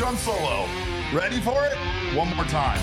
Gun Solo. Ready for it? One more time.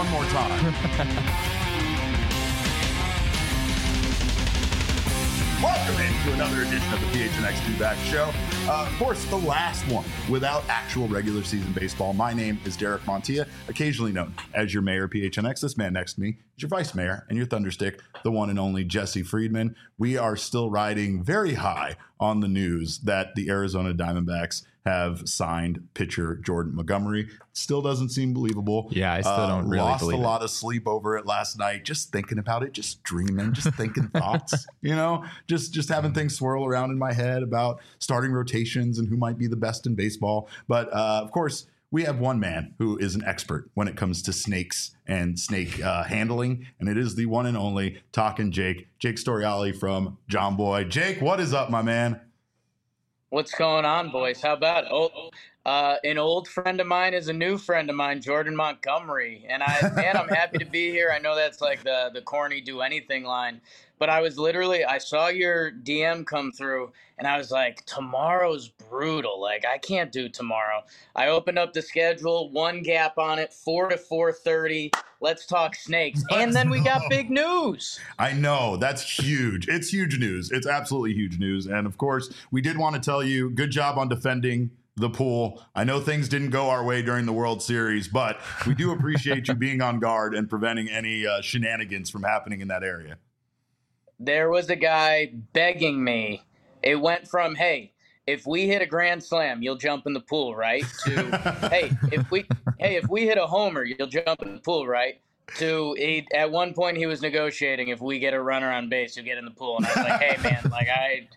Welcome into another edition of the PHNX Feedback Show. Of course, the last one without actual regular season baseball. My name is Derek Montilla, occasionally known as your mayor, PHNX. This man next to me is your vice mayor and your thunderstick, the one and only Jesse Friedman. We are still riding very high on the news that the Arizona Diamondbacks have signed pitcher Jordan Montgomery. Still doesn't seem believable. Yeah, I still don't really lost believe a lot of sleep over it last night, just thinking about it, just dreaming, just thinking thoughts, just having things swirl around in my head about starting rotations and who might be the best in baseball. But of course, we have one man who is an expert when it comes to snakes and snake handling, and it is the one and only Talkin' Jake Storiale from John Boy. Jake, what is up, my man? What's going on, boys? How about an old friend of mine is a new friend of mine, Jordan Montgomery. And I'm happy to be here. I know that's like the corny do anything line, but I saw your DM come through and I was like, tomorrow's brutal. Like, I can't do tomorrow. I opened up the schedule, one gap on it, 4 to 4:30. Let's talk snakes. And then we got big news. I know. That's huge. It's huge news. It's absolutely huge news. And of course, we did want to tell you, good job on defending the pool. I know things didn't go our way during the World Series, but we do appreciate you being on guard and preventing any shenanigans from happening in that area. There was a guy begging me. It went from, hey, if we hit a grand slam, you'll jump in the pool, right? To, hey, if we hit a homer, you'll jump in the pool, right? To, at one point he was negotiating, if we get a runner on base, you'll get in the pool. And I was like, hey, man, like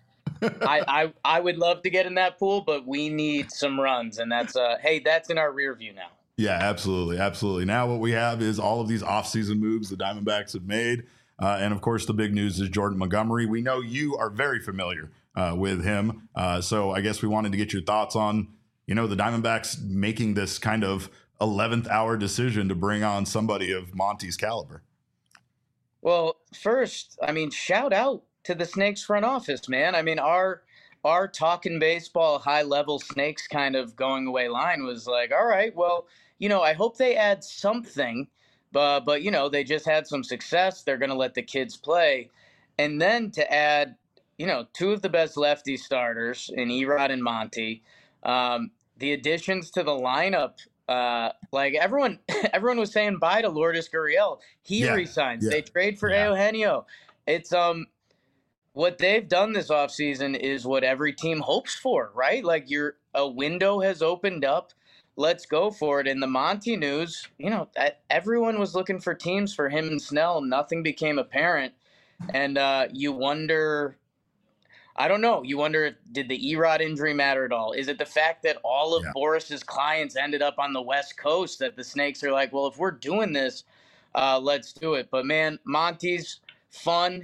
I would love to get in that pool, but we need some runs. And that's that's in our rear view now. Yeah, absolutely. Now what we have is all of these offseason moves the Diamondbacks have made. And of course, the big news is Jordan Montgomery. We know you are very familiar with him. So I guess we wanted to get your thoughts on, the Diamondbacks making this kind of 11th hour decision to bring on somebody of Monty's caliber. Well, first, shout out to the Snakes front office, man. Our talking baseball high level Snakes kind of going away line was like, all right, well, I hope they add something, but they just had some success. They're going to let the kids play. And then to add, two of the best lefty starters in Erod and Monty, the additions to the lineup, like everyone was saying bye to Lourdes Gurriel. He resigns. Yeah. They trade for Eugenio. It's what they've done this offseason is what every team hopes for, right? Like a window has opened up. Let's go for it. In the Monty news, everyone was looking for teams for him and Snell. Nothing became apparent. And you wonder, I don't know. You wonder, did the Erod injury matter at all? Is it the fact that all of Boris's clients ended up on the West Coast that the Snakes are like, well, if we're doing this, let's do it. But man, Monty's fun.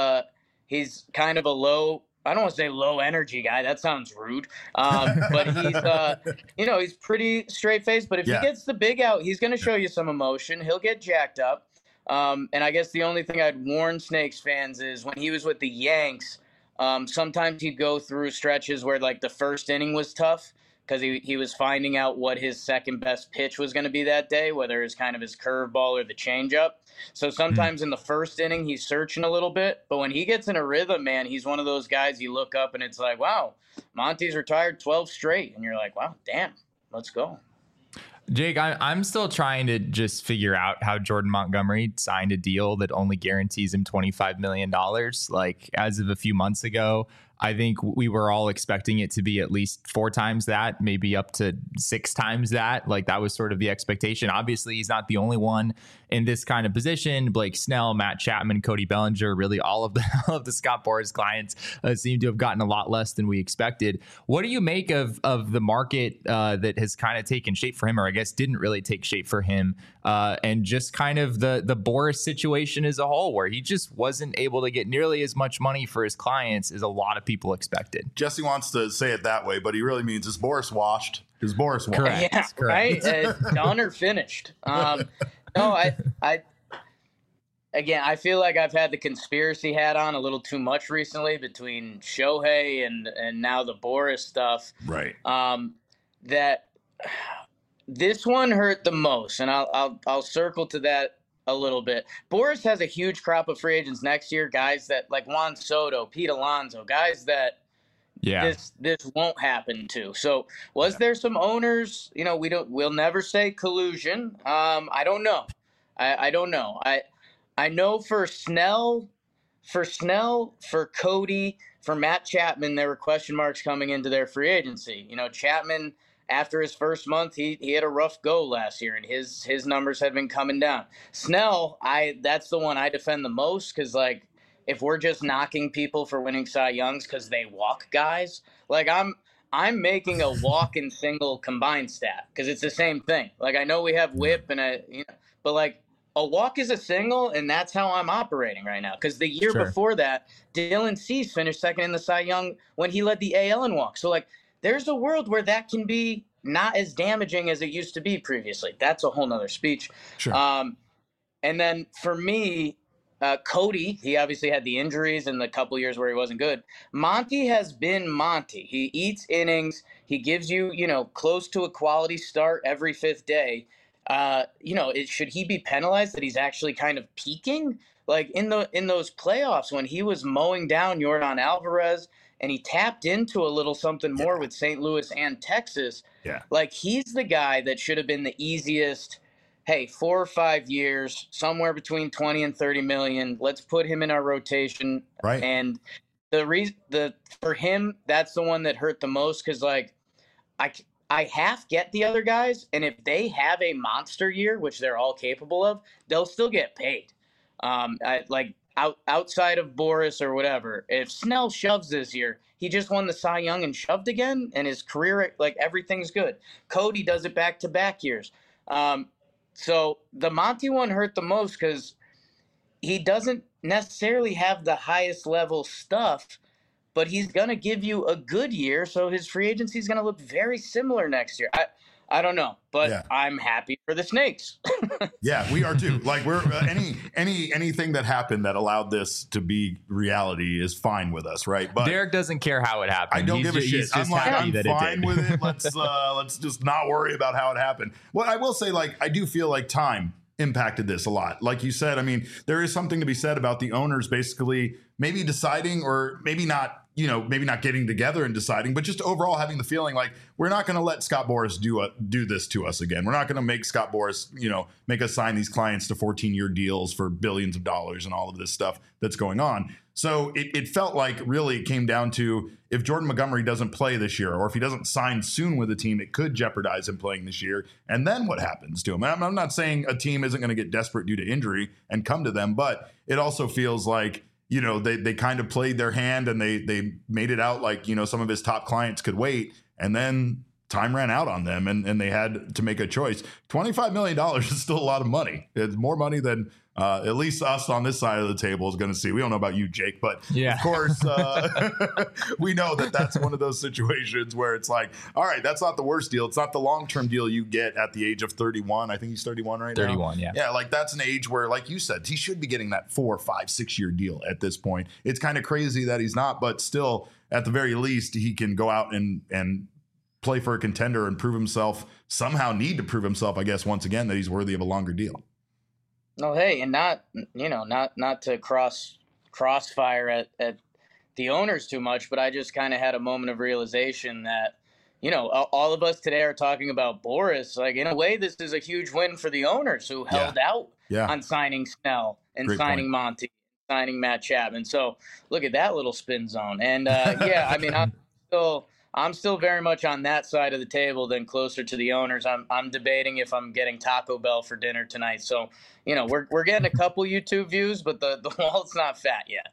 He's kind of I don't want to say low energy guy. That sounds rude. But he's, he's pretty straight faced. But if he gets the big out, he's going to show you some emotion. He'll get jacked up. And I guess the only thing I'd warn Snakes fans is when he was with the Yanks, sometimes he'd go through stretches where like the first inning was tough because he was finding out what his second best pitch was going to be that day, whether it's kind of his curveball or the changeup. So sometimes in the first inning, he's searching a little bit. But when he gets in a rhythm, man, he's one of those guys you look up and it's like, wow, Monty's retired 12 straight. And you're like, wow, damn, let's go. Jake, I'm still trying to just figure out how Jordan Montgomery signed a deal that only guarantees him $25 million. Like, as of a few months ago, I think we were all expecting it to be at least 4 times that, maybe up to 6 times that. Like, that was sort of the expectation. Obviously, he's not the only one in this kind of position. Blake Snell, Matt Chapman, Cody Bellinger, really all of the Scott Boras clients seem to have gotten a lot less than we expected. What do you make of the market that has kind of taken shape for him, or I guess didn't really take shape for him, and just kind of the Boras situation as a whole, where he just wasn't able to get nearly as much money for his clients as a lot of people expected? Jesse wants to say it that way, but he really means, is Boras washed? Is Boras washed? Correct. Yeah, correct. Right? Done or finished. No, I feel like I've had the conspiracy hat on a little too much recently between Shohei and now the Boras stuff. Right. That This one hurt the most, and I'll circle to that a little bit. Boris has a huge crop of free agents next year, guys that like Juan Soto, Pete Alonso, guys that this won't happen to. So was there some owners, we'll never say collusion. I don't know. I don't know. I know for Snell, for Cody, for Matt Chapman, there were question marks coming into their free agency. Chapman, after his first month, he had a rough go last year, and his numbers had been coming down. Snell, that's the one I defend the most, because if we're just knocking people for winning Cy Youngs because they walk guys, I'm making a walk and single combined stat because it's the same thing. I know we have whip but a walk is a single, and that's how I'm operating right now. Because the year before that, Dylan Cease finished second in the Cy Young when he led the AL in walks. So there's a world where that can be not as damaging as it used to be previously. That's a whole nother speech. Sure. And then for me, Cody, he obviously had the injuries in the couple years where he wasn't good. Monty has been Monty. He eats innings. He gives you, close to a quality start every fifth day. Should he be penalized that he's actually kind of peaking? In those playoffs when he was mowing down Yordan Alvarez and he tapped into a little something more with St. Louis and Texas. Yeah. He's the guy that should have been the easiest. Hey, 4 or 5 years, somewhere between 20 and 30 million. Let's put him in our rotation. Right. And for him, that's the one that hurt the most because I half get the other guys, and if they have a monster year, which they're all capable of, they'll still get paid. Outside of Boris or whatever, if Snell shoves this year, he just won the Cy Young and shoved again, and his career, everything's good. Cody does it back-to-back years. So the Monty one hurt the most because he doesn't necessarily have the highest level stuff, but he's going to give you a good year, so his free agency is going to look very similar next year. I don't know, but I'm happy for the Snakes. Yeah, we are too. We're anything that happened that allowed this to be reality is fine with us, right? But Derek doesn't care how it happened. I don't give a shit. He's just happy that fine it did. with it. Let's just not worry about how it happened. Well, I will say, I do feel like time impacted this a lot. Like you said, I mean, there is something to be said about the owners basically maybe deciding, or maybe not, maybe not getting together and deciding, but just overall having the feeling we're not going to let Scott Boras do this to us again. We're not going to make Scott Boras, make us sign these clients to 14-year deals for billions of dollars and all of this stuff that's going on. So it felt like really it came down to, if Jordan Montgomery doesn't play this year, or if he doesn't sign soon with a team, it could jeopardize him playing this year. And then what happens to him? I'm not saying a team isn't going to get desperate due to injury and come to them, but it also feels like, they kind of played their hand and they made it out some of his top clients could wait, and then time ran out on them and they had to make a choice. $25 million is still a lot of money. It's more money than at least us on this side of the table is going to see. We don't know about you, Jake, but of course we know that that's one of those situations where it's all right, that's not the worst deal. It's not the long-term deal you get at the age of 31. I think he's 31 right now. 31, yeah. Yeah, that's an age where, like you said, he should be getting that 4, 5, 6 year deal at this point. It's kind of crazy that he's not, but still, at the very least, he can go out and play for a contender and prove himself, somehow need to prove himself, I guess, once again, that he's worthy of a longer deal. No, hey, and not to crossfire at the owners too much, but I just kind of had a moment of realization that, all of us today are talking about Boris. In a way, this is a huge win for the owners who held out on signing Snell and Great signing point. Monty, signing Matt Chapman. So look at that little spin zone. And I mean, I'm still very much on that side of the table than closer to the owners. I'm debating if I'm getting Taco Bell for dinner tonight. So, we're getting a couple YouTube views, but the wallet's not fat yet.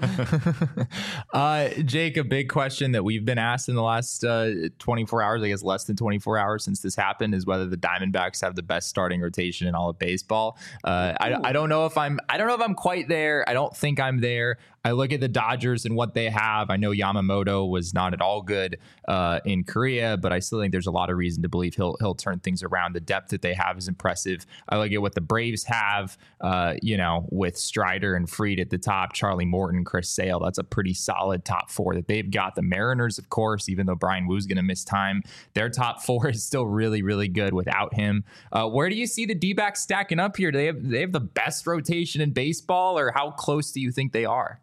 Jake, a big question that we've been asked in the last 24 hours, I guess less than 24 hours since this happened, is whether the Diamondbacks have the best starting rotation in all of baseball. I don't know if I'm quite there. I don't think I'm there. I look at the Dodgers and what they have. I know Yamamoto was not at all good in Korea, but I still think there's a lot of reason to believe he'll turn things around. The depth that they have is impressive. I like it what the Braves have, with Strider and Fried at the top, Charlie Morton, Chris Sale. That's a pretty solid top four that they've got. The Mariners, of course, even though Brian Woo's going to miss time, their top four is still really, really good without him. Where do you see the D-backs stacking up here? Do they have the best rotation in baseball, or how close do you think they are?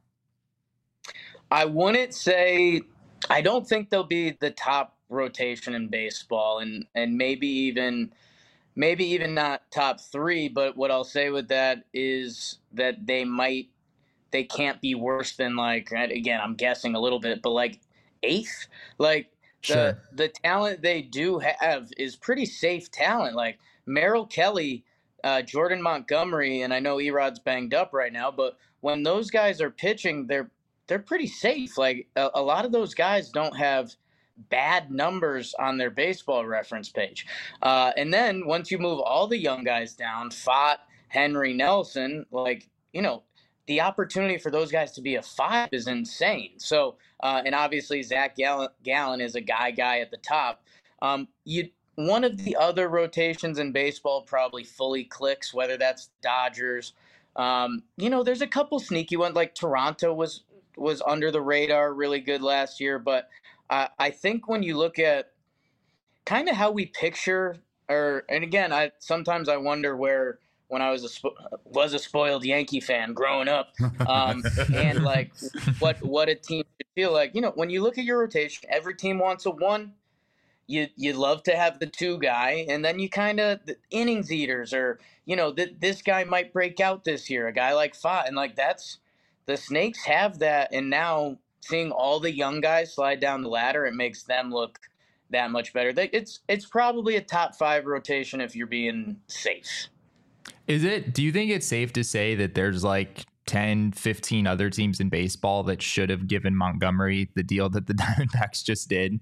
I wouldn't say, I don't think they'll be the top rotation in baseball, and maybe even not top three. But what I'll say with that is that they can't be worse than, like, again, I'm guessing a little bit, but like eighth. Like the talent they do have is pretty safe talent. Like Merrill Kelly, Jordan Montgomery, and I know Erod's banged up right now, but when those guys are pitching, they're pretty safe. Like a lot of those guys don't have bad numbers on their baseball reference page. And then once you move all the young guys down, Fott, Henry, Nelson, like, the opportunity for those guys to be a 5 is insane. So, and obviously Zach Gallen is a guy at the top. One of the other rotations in baseball probably fully clicks, whether that's Dodgers. There's a couple sneaky ones, like Toronto was under the radar really good last year. But I think when you look at kind of how we picture, and again, sometimes I wonder where, when I was a spoiled Yankee fan growing up, and like what a team should feel like. When you look at your rotation, every team wants a 1. You love to have the 2 guy, and then you kind of the innings eaters, or this guy might break out this year, a guy like Fott, and like that's the Snakes have that. And now seeing all the young guys slide down the ladder, it makes them look that much better. It's probably a top 5 rotation if you're being safe. Is it? Do you think it's safe to say that there's like 10, 15 other teams in baseball that should have given Montgomery the deal that the Diamondbacks just did?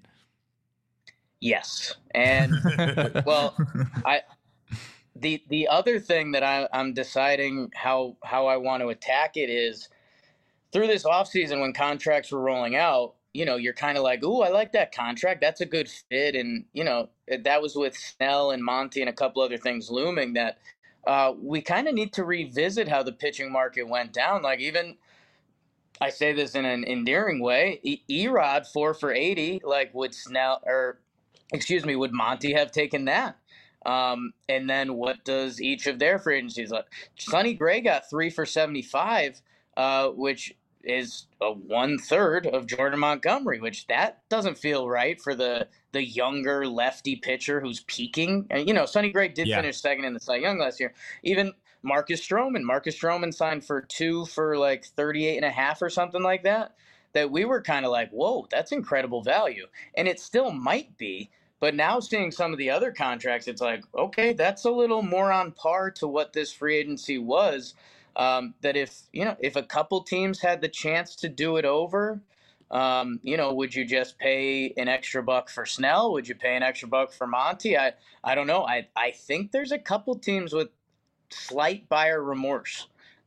Yes. And well, the other thing that I'm deciding how I want to attack it is through this offseason when contracts were rolling out, you're kind of like, ooh, I like that contract. That's a good fit. And, that was with Snell and Monty and a couple other things looming that we kind of need to revisit how the pitching market went down. Like, even, I say this in an endearing way, Erod 4 for 80, like would Monty have taken that? And then what does each of their free agencies like? Sonny Gray got 3 for 75, which is a 1/3 of Jordan Montgomery, which that doesn't feel right for the younger lefty pitcher who's peaking. And, Sonny Gray did finish second in the Cy Young last year. Even Marcus Stroman signed for 2 for like 38.5 or something like that we were kind of like, whoa, that's incredible value. And it still might be. But now seeing some of the other contracts, it's like, okay, that's a little more on par to what this free agency was. That if a couple teams had the chance to do it over, would you just pay an extra $1 for Snell? Would you pay an extra $1 for Monty? I don't know. I think there's a couple teams with slight buyer remorse.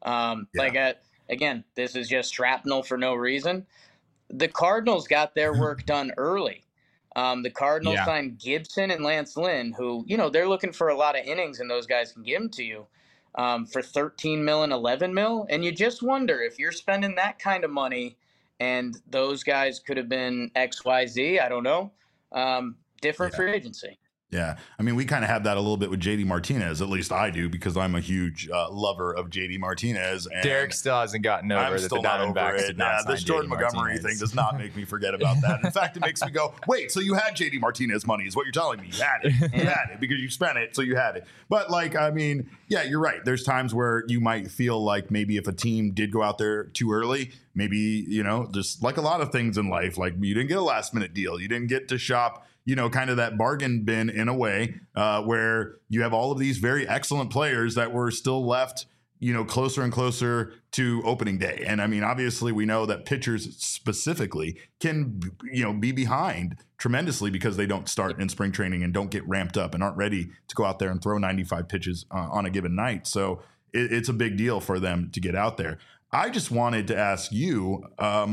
Again, this is just shrapnel for no reason. The Cardinals got their work done early. The Cardinals signed Gibson and Lance Lynn, who, they're looking for a lot of innings, and those guys can give them to you for $13 million and $11 million. And you just wonder if you're spending that kind of money, and those guys could have been XYZ, I don't know, different free agency. Yeah. I mean, we kind of have that a little bit with JD Martinez. At least I do, because I'm a huge lover of JD Martinez. And Derek still hasn't gotten over that the Diamondbacks did not sign this Jordan Montgomery thing does not make me forget about that. In fact, it makes me go, wait, so you had JD Martinez money is what you're telling me. You had it. You had it because you spent it, so you had it. But you're right. There's times where you might feel like maybe if a team did go out there too early, maybe, just like a lot of things in life, like you didn't get a last minute deal. You didn't get to shop kind of that bargain bin in a way where you have all of these very excellent players that were still left, closer and closer to opening day. And I mean, obviously we know that pitchers specifically can, be behind tremendously because they don't start in spring training and don't get ramped up and aren't ready to go out there and throw 95 pitches on a given night. So it's a big deal for them to get out there. I just wanted to ask you,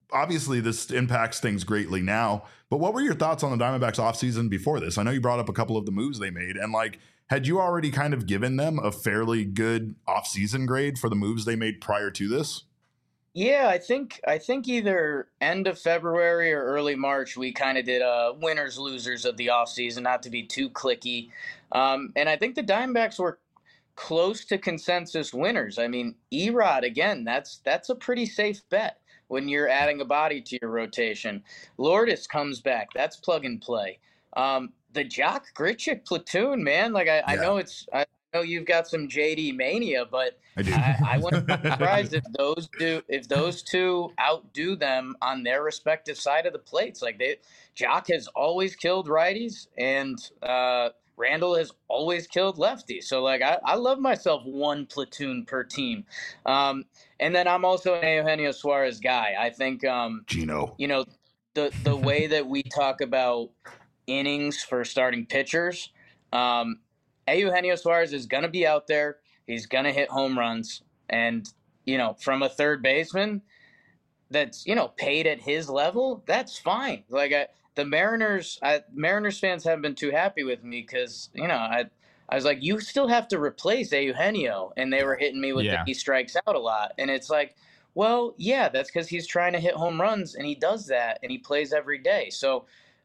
obviously this impacts things greatly now, but what were your thoughts on the Diamondbacks offseason before this? I know you brought up a couple of the moves they made, and like, had you already kind of given them a fairly good offseason grade for the moves they made prior to this? Yeah, I think either end of February or early March, we kind of did winners losers of the offseason, not to be too clicky. And I think the Diamondbacks were close to consensus winners. I mean, Erod, again, that's a pretty safe bet when you're adding a body to your rotation. Lourdes comes back. That's plug and play. The Jock Grichuk platoon, man. Like, I know I know you've got some JD mania, but I do. I wouldn't be surprised if those two outdo them on their respective side of the plates. Like, Jock has always killed righties, and Randall has always killed lefties. So, like, I love myself one platoon per team. And then I'm also an Eugenio Suarez guy. I think Gino. You know, the way that we talk about innings for starting pitchers, Eugenio Suarez is going to be out there. He's going to hit home runs. And, from a third baseman that's, paid at his level, that's fine. Like, the Mariners fans haven't been too happy with me because, I was like, you still have to replace Eugenio. And they were hitting me with that he strikes out a lot. And it's like, well, yeah, that's because he's trying to hit home runs, and he does that, and he plays every day. So,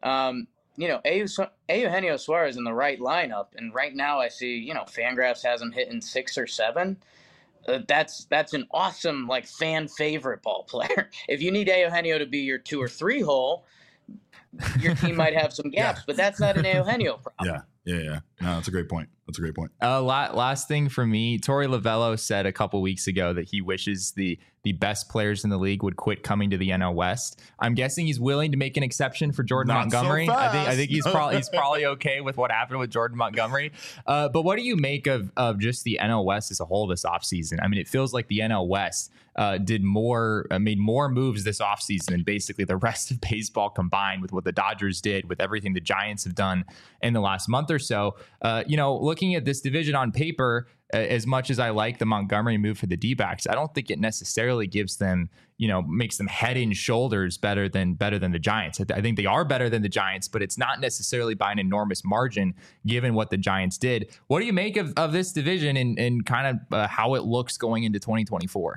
Eugenio Suarez in the right lineup, and right now I see, Fangraphs has him hitting 6 or 7. That's an awesome, like, fan favorite ball player. If you need Eugenio to be your 2 or 3 hole, your team might have some gaps, but that's not an Eugenio problem. Yeah. No, that's a great point. Last thing for me, Torey Lovello said a couple weeks ago that he wishes the best players in the league would quit coming to the NL West. I'm guessing he's willing to make an exception for Jordan Montgomery. So I think he's probably okay with what happened with Jordan Montgomery. But what do you make of just the NL West as a whole this offseason? I mean, it feels like the NL West made more moves this offseason than basically the rest of baseball combined, with what the Dodgers did, with everything the Giants have done in the last month or so. Looking at this division on paper, as much as I like the Montgomery move for the D-backs, I don't think it necessarily gives them, makes them head and shoulders better than the Giants. I think they are better than the Giants, but it's not necessarily by an enormous margin given what the Giants did. What do you make of this division and kind of how it looks going into 2024?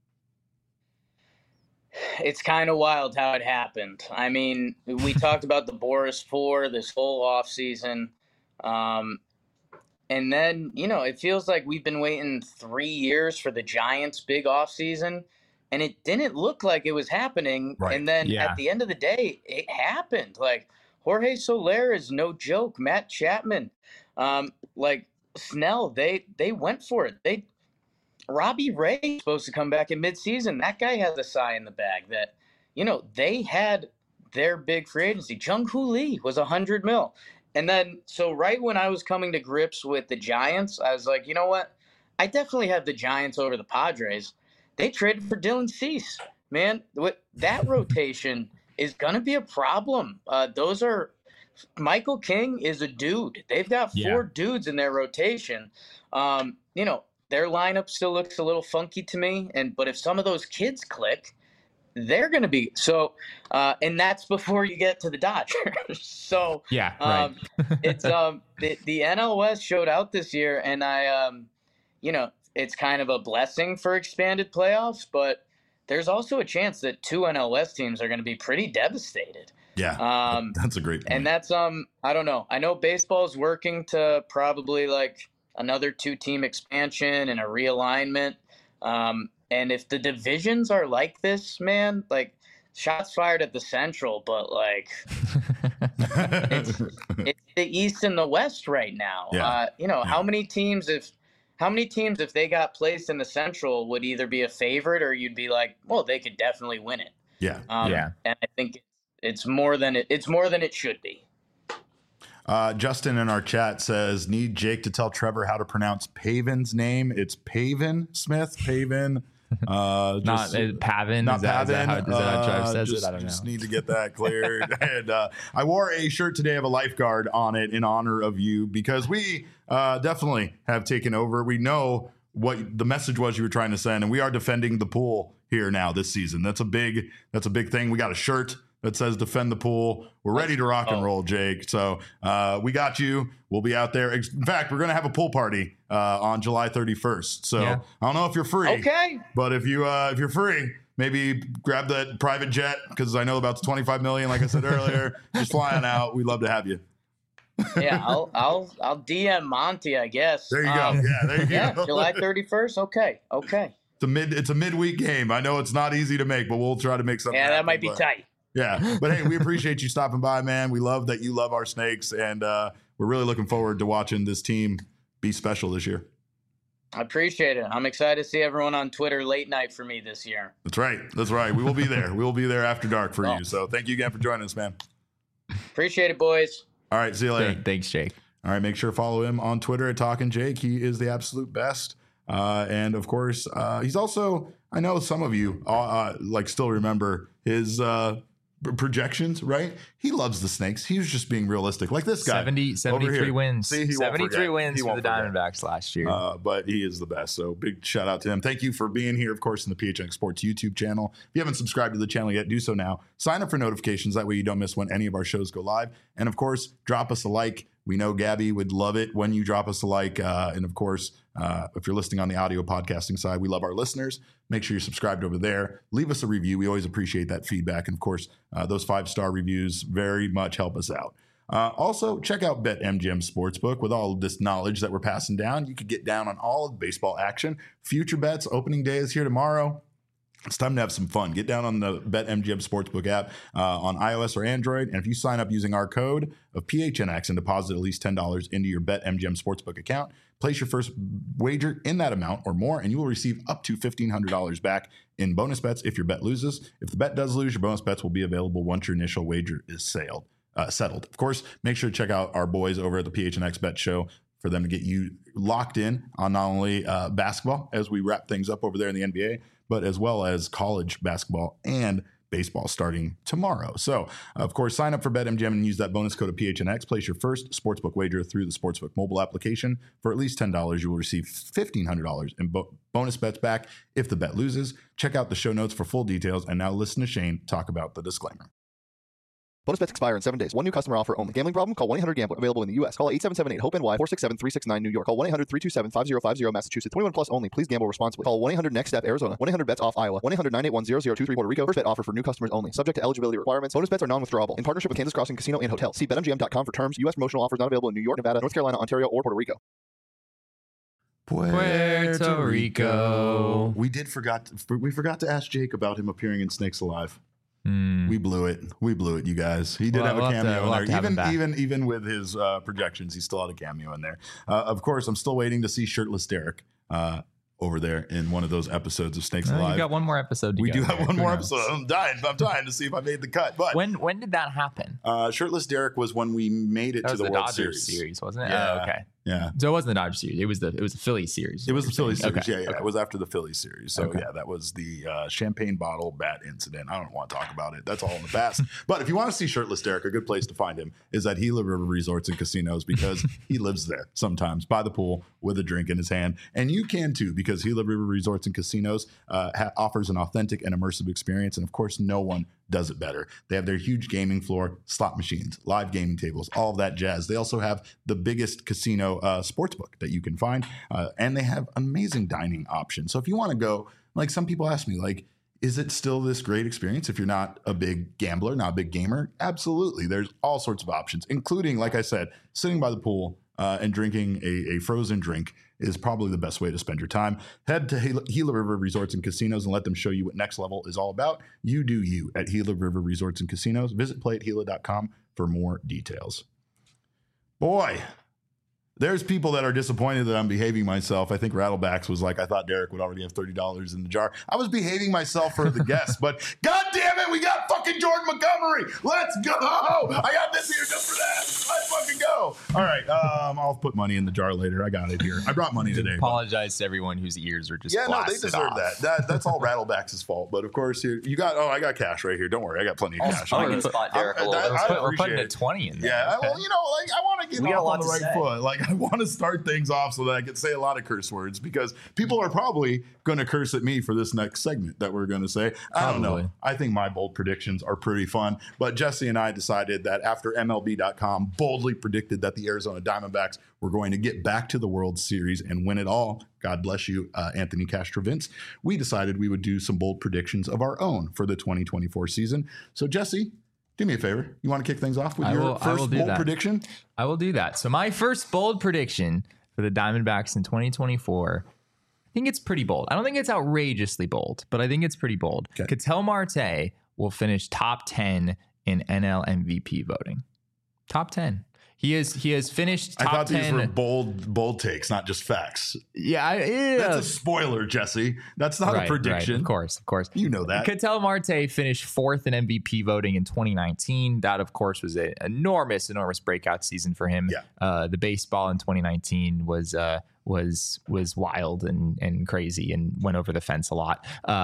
It's kind of wild how it happened. I mean, we talked about the Boris 4 this whole offseason. And then, it feels like we've been waiting 3 years for the Giants' big offseason, and it didn't look like it was happening. Right. And then at the end of the day, it happened. Like, Jorge Soler is no joke. Matt Chapman, Snell, they went for it. Robbie Ray is supposed to come back in midseason. That guy has a sigh in the bag that, they had their big free agency. Jung-Hoo Lee was $100 million. And then, so right when I was coming to grips with the Giants, I was like, you know what? I definitely have the Giants over the Padres. They traded for Dylan Cease. Man, that rotation is going to be a problem. Michael King is a dude. They've got 4 dudes in their rotation. Their lineup still looks a little funky to me. But if some of those kids click, they're going to be so, and that's before you get to the Dodgers. So right. It's the NL West showed out this year, and it's kind of a blessing for expanded playoffs, but there's also a chance that 2 NL West teams are going to be pretty devastated. Yeah, that's a great point. And that's I don't know. I know baseball is working to probably like another 2-team expansion and a realignment. And if the divisions are like this, man, like, shots fired at the Central, but like it's the East and the West right now. How many teams if they got placed in the Central would either be a favorite or you'd be like, well, they could definitely win it. And I think it's more than it should be. Justin in our chat says, need Jake to tell Trevor how to pronounce Pavin's name. It's Pavin Smith. Pavin. Not Pavin. Not is that Pavin. how Trev says it? I don't know. Just need to get that cleared. And I wore a shirt today of a lifeguard on it in honor of you, because we definitely have taken over. We know what the message was you were trying to send, and we are defending the pool here now this season. That's a big thing. We got a shirt that says defend the pool. We're ready to rock and roll, Jake. So we got you. We'll be out there. In fact, we're going to have a pool party on July 31st. So I don't know if you're free. Okay. But if you're free, maybe grab that private jet, because I know about the $25 million, like I said earlier, just flying out. We'd love to have you. Yeah, I'll DM Monty, I guess. There you go. Yeah, there you go. July 31st. Okay. It's a midweek game. I know it's not easy to make, but we'll try to make something. Yeah, that happen, might be tight. Yeah, but hey, we appreciate you stopping by, man. We love that you love our Snakes, and we're really looking forward to watching this team be special this year. I appreciate it. I'm excited to see everyone on Twitter late night for me this year. That's right. We will be there. We will be there after dark for you. So thank you again for joining us, man. Appreciate it, boys. All right, see you later. Thanks, Jake. All right, make sure to follow him on Twitter at Talkin' Jake. He is the absolute best. And of course, he's also, I know some of you still remember his projections, right? He loves the Snakes. He was just being realistic. Like this guy. 73 wins. See, 73 wins for the Diamondbacks last year. But he is the best. So big shout out to him. Thank you for being here, of course, in the PHNX Sports YouTube channel. If you haven't subscribed to the channel yet, do so now. Sign up for notifications. That way you don't miss when any of our shows go live. And of course, drop us a like. We know Gabby would love it when you drop us a like. And of course, if you're listening on the audio podcasting side, we love our listeners. Make sure you're subscribed over there. Leave us a review. We always appreciate that feedback. And of course, those 5-star reviews very much help us out. Also, check out BetMGM Sportsbook. With all of this knowledge that we're passing down, you could get down on all of the baseball action. Future bets, opening day is here tomorrow. It's time to have some fun. Get down on the BetMGM Sportsbook app on iOS or Android. And if you sign up using our code of PHNX and deposit at least $10 into your BetMGM Sportsbook account, place your first wager in that amount or more, and you will receive up to $1,500 back in bonus bets if your bet loses. If the bet does lose, your bonus bets will be available once your initial wager is settled. Of course, make sure to check out our boys over at the PHNX Bet Show for them to get you locked in on not only basketball as we wrap things up over there in the NBA, but as well as college basketball and baseball starting tomorrow. So, of course, sign up for BetMGM and use that bonus code of PHNX. Place your first sportsbook wager through the Sportsbook mobile application. For at least $10, you will receive $1,500 in bonus bets back if the bet loses. Check out the show notes for full details. And now listen to Shane talk about the disclaimer. Bonus bets expire in 7 days. One new customer offer only. Gambling problem? Call 1-800-GAMBLER. Available in the U.S. Call 877-8-HOPE-NY, 467-369 New York. Call 1-800-327-5050 Massachusetts. 21 plus only. Please gamble responsibly. Call 1-800-NEXT-STEP Arizona. 1-800-BETS-OFF Iowa. 1-800-981-0023 Puerto Rico. First bet offer for new customers only. Subject to eligibility requirements. Bonus bets are non-withdrawable. In partnership with Kansas Crossing Casino and Hotel. See BetMGM.com for terms. U.S. promotional offers not available in New York, Nevada, North Carolina, Ontario, or Puerto Rico. Puerto Rico. We forgot to ask Jake about him appearing in Snakes Alive. We blew it, you guys. He did have a cameo in there. Even with his projections, he still had a cameo in there. Of course, I'm still waiting to see Shirtless Derek over there in one of those episodes of Snakes Alive. You got one more episode to We go do have there. one Who more knows? episode. I'm dying to see if I made the cut. But When did that happen? Shirtless Derek was when we made it That to was the the World Dodgers Series. wasn't it? Yeah. Oh, okay. Yeah. So it wasn't the Dodgers series. It was the Philly series. It was the Philly series. Okay. Yeah. It was after the Philly series. So Okay. yeah, that was the champagne bottle bat incident. I don't want to talk about it. That's all in the past. But if you want to see Shirtless Derek, a good place to find him is at Gila River Resorts and Casinos, because he lives there sometimes by the pool with a drink in his hand. And you can too, because Gila River Resorts and Casinos offers an authentic and immersive experience. And of course, no one does it better. They have their huge gaming floor, slot machines, live gaming tables, all of that jazz. They also have the biggest casino sportsbook that you can find, and they have amazing dining options. So if you want to go, like some people ask me, like, is it still this great experience if you're not a big gambler, not a big gamer? Absolutely. There's all sorts of options, including, like I said, sitting by the pool and drinking a frozen drink is probably the best way to spend your time. Head to Gila River Resorts and Casinos and let them show you what Next Level is all about. You do you at Gila River Resorts and Casinos. Visit playathela.com for more details. Boy, there's people that are disappointed that I'm behaving myself. I think Rattlebacks was like, I thought Derek would already have $30 in the jar. I was behaving myself for the guests, but God damn it, we got fucking Jordan Montgomery. Let's go. I got this here just for that. Let's fucking go. All right, I'll put money in the jar later. I got it here. I brought money today. Apologize to everyone whose ears are just Yeah, no, they blasted deserve off. that. That's all Rattlebacks' fault. But of course, you got. Oh, I got cash right here. Don't worry, I got plenty of cash. I'm gonna spot Derek a little bit. We're putting a 20 in there. Yeah, well, like I want want to get We got a off lot on the to right say. foot. Like, I want to start things off so that I can say a lot of curse words because people are probably going to curse at me for this next segment that we're going to say. I don't know. Probably. I think my bold predictions are pretty fun, but Jesse and I decided that after MLB.com boldly predicted that the Arizona Diamondbacks were going to get back to the World Series and win it all, God bless you, Anthony Castrovince, we decided we would do some bold predictions of our own for the 2024 season. So, Jesse, do me a favor. You want to kick things off with your first bold prediction? I will do that. So my first bold prediction for the Diamondbacks in 2024, I think it's pretty bold. I don't think it's outrageously bold, but I think it's pretty bold. Okay. Ketel Marte will finish top 10 in NL MVP voting. Top 10. He has finished top 10. I thought these were bold takes, not just facts. Yeah. That's a spoiler, Jesse. That's not a prediction. Right. Of course. You know that. Ketel Marte finished 4th in MVP voting in 2019. That, of course, was an enormous breakout season for him. Yeah. The baseball in 2019 was wild and crazy and went over the fence a lot.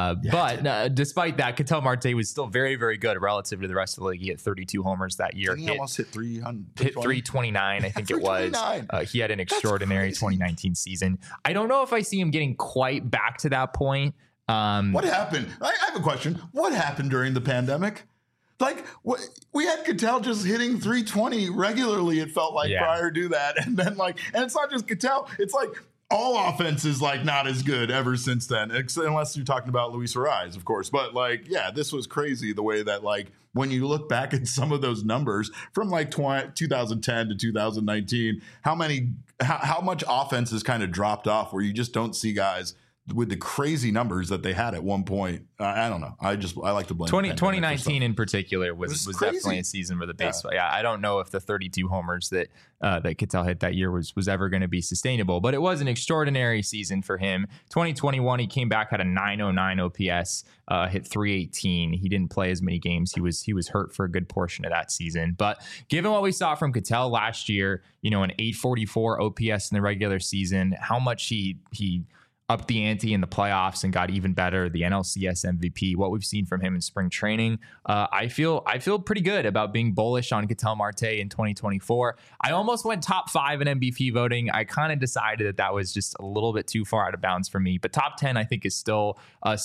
But despite that, Ketel Marte was still very, very good relative to the rest of the league. He hit 32 homers that year. He almost hit 300. Hit 329, I think it was. He had an extraordinary 2019 season. I don't know if I see him getting quite back to that point. What happened? I have a question. What happened during the pandemic? Like, we had Ketel just hitting 320 regularly, it felt like, prior to that. And then, and it's not just Ketel. It's like all offense is, not as good ever since then, unless you're talking about Luis Ariz, of course. But, this was crazy the way that, when you look back at some of those numbers from, 2010 to 2019, how much offense has kind of dropped off where you just don't see guys with the crazy numbers that they had at one point. I don't know. I like to blame 2019 in particular was definitely a season where the baseball. Yeah, I don't know if the 32 homers that Ketel hit that year was ever going to be sustainable, but it was an extraordinary season for him. 2021, he came back, had a 909 OPS, hit 318. He didn't play as many games. He was hurt for a good portion of that season. But given what we saw from Ketel last year, an 844 OPS in the regular season, how much he upped the ante in the playoffs and got even better, the NLCS MVP, what we've seen from him in spring training. I feel pretty good about being bullish on Ketel Marte in 2024. I almost went top 5 in MVP voting. I kind of decided that was just a little bit too far out of bounds for me, but top 10 I think is still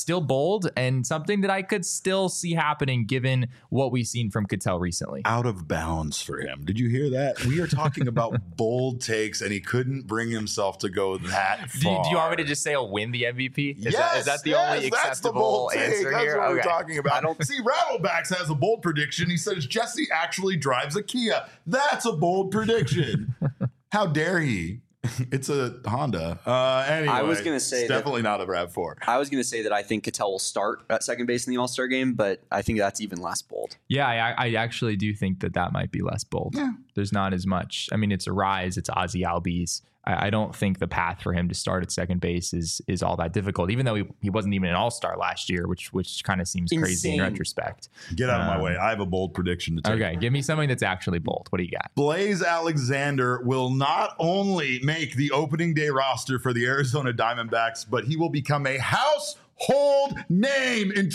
bold and something that I could still see happening given what we've seen from Ketel recently. Out of bounds for him. Did you hear that? We are talking about bold takes and he couldn't bring himself to go that far. Do you want me to just say he'll win the MVP? Is that the only that's acceptable the answer that's here? What we're talking about. See, Rattlebacks has a bold prediction. He says Jesse actually drives a Kia. That's a bold prediction. How dare he? It's a Honda. Anyway, I was going to say it's definitely not a RAV4. I was going to say that I think Ketel will start at second base in the All-Star game, but I think that's even less bold. Yeah, I actually do think that might be less bold. Yeah. There's not as much. I mean, it's Ariz, it's Ozzy Albies. I don't think the path for him to start at second base is all that difficult, even though he wasn't even an all-star last year, which kind of seems crazy in retrospect. Get out of my way. I have a bold prediction to take. Okay, give me something that's actually bold. What do you got? Blaze Alexander will not only make the opening day roster for the Arizona Diamondbacks, but he will become a household name in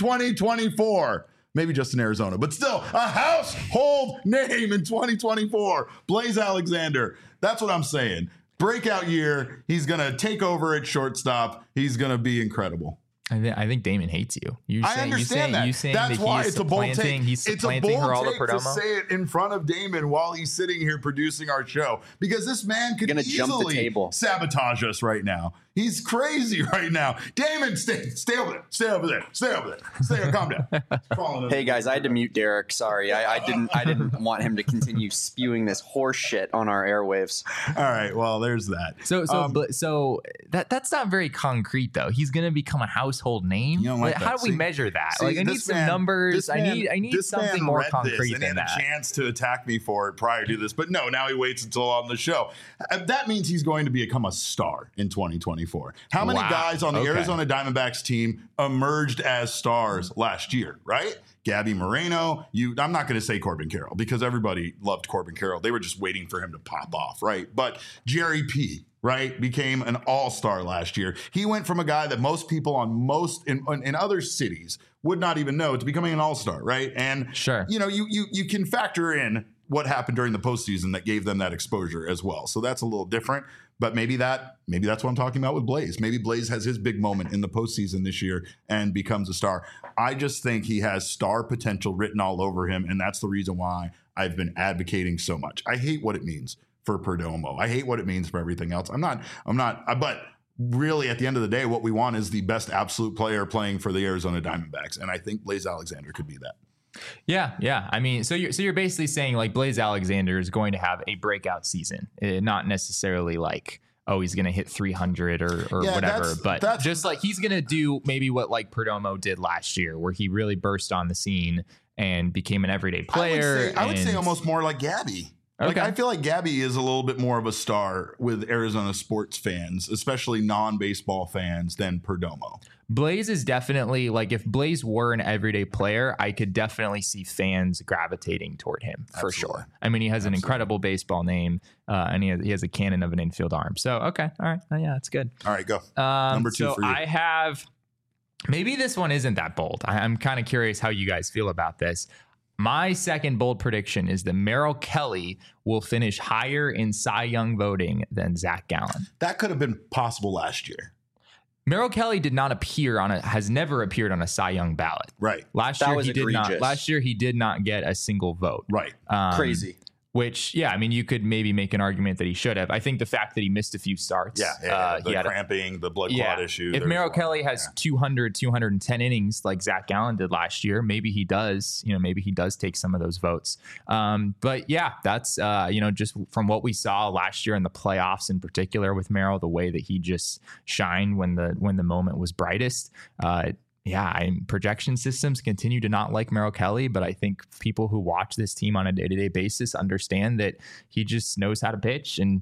2024. Maybe just in Arizona, but still a household name in 2024. Blaze Alexander. That's what I'm saying. Breakout year. He's going to take over at shortstop. He's going to be incredible. I think Damon hates you. I understand that. That's why it's a bold take. It's a bold take to say it in front of Damon while he's sitting here producing our show, because this man could easily sabotage us right now. He's crazy right now. Damon, stay over there. Stay over there. Calm down. Hey guys, I had to mute Derek. Sorry, I didn't want him to continue spewing this horse shit on our airwaves. All right, well, there's that. So that's not very concrete though. He's gonna become a household name. You don't like How that. do we measure that? I need some numbers. I need something more concrete than that. And he had a chance to attack me for it prior to this, but no. Now he waits until on the show. That means he's going to become a star in 2024. How many guys on the Arizona Diamondbacks team emerged as stars last year, right? Gabby Moreno. I'm not going to say Corbin Carroll because everybody loved Corbin Carroll. They were just waiting for him to pop off, right? But Jerry P., right, became an all-star last year. He went from a guy that most people in other cities would not even know to becoming an all-star, right? And sure, you can factor in what happened during the postseason that gave them that exposure as well. So that's a little different. But maybe that's what I'm talking about with Blaze. Maybe Blaze has his big moment in the postseason this year and becomes a star. I just think he has star potential written all over him, and that's the reason why I've been advocating so much. I hate what it means for Perdomo. I hate what it means for everything else. But really, at the end of the day, what we want is the best absolute player playing for the Arizona Diamondbacks, and I think Blaze Alexander could be that. Yeah. I mean, so you're basically saying like Blaze Alexander is going to have a breakout season, not necessarily like, oh, he's going to hit 300 or whatever, but just like he's going to do maybe what like Perdomo did last year, where he really burst on the scene and became an everyday player. I would say almost more like Gabby. Like, I feel like Gabby is a little bit more of a star with Arizona sports fans, especially non-baseball fans, than Perdomo. Blaze is definitely like, if Blaze were an everyday player, I could definitely see fans gravitating toward him for sure. I mean, he has an incredible baseball name, and he has a cannon of an infield arm. So, okay. All right. Yeah, that's good. All right, go. Number 2 for you. I have, maybe this one isn't that bold. I'm kind of curious how you guys feel about this. My second bold prediction is that Merrill Kelly will finish higher in Cy Young voting than Zach Gallen. That could have been possible last year. Merrill Kelly has never appeared on a Cy Young ballot. Right. Last year he did not get a single vote. Right. Crazy. Which, yeah, I mean, you could maybe make an argument that he should have. I think the fact that he missed a few starts. The cramping, the blood clot issue. If Merrill Kelly has 210 innings like Zach Gallen did last year, maybe he does take some of those votes. But yeah, that's, just from what we saw last year in the playoffs in particular with Merrill, the way that he just shined when the moment was brightest. Projection systems continue to not like Merrill Kelly, but I think people who watch this team on a day-to-day basis understand that he just knows how to pitch. And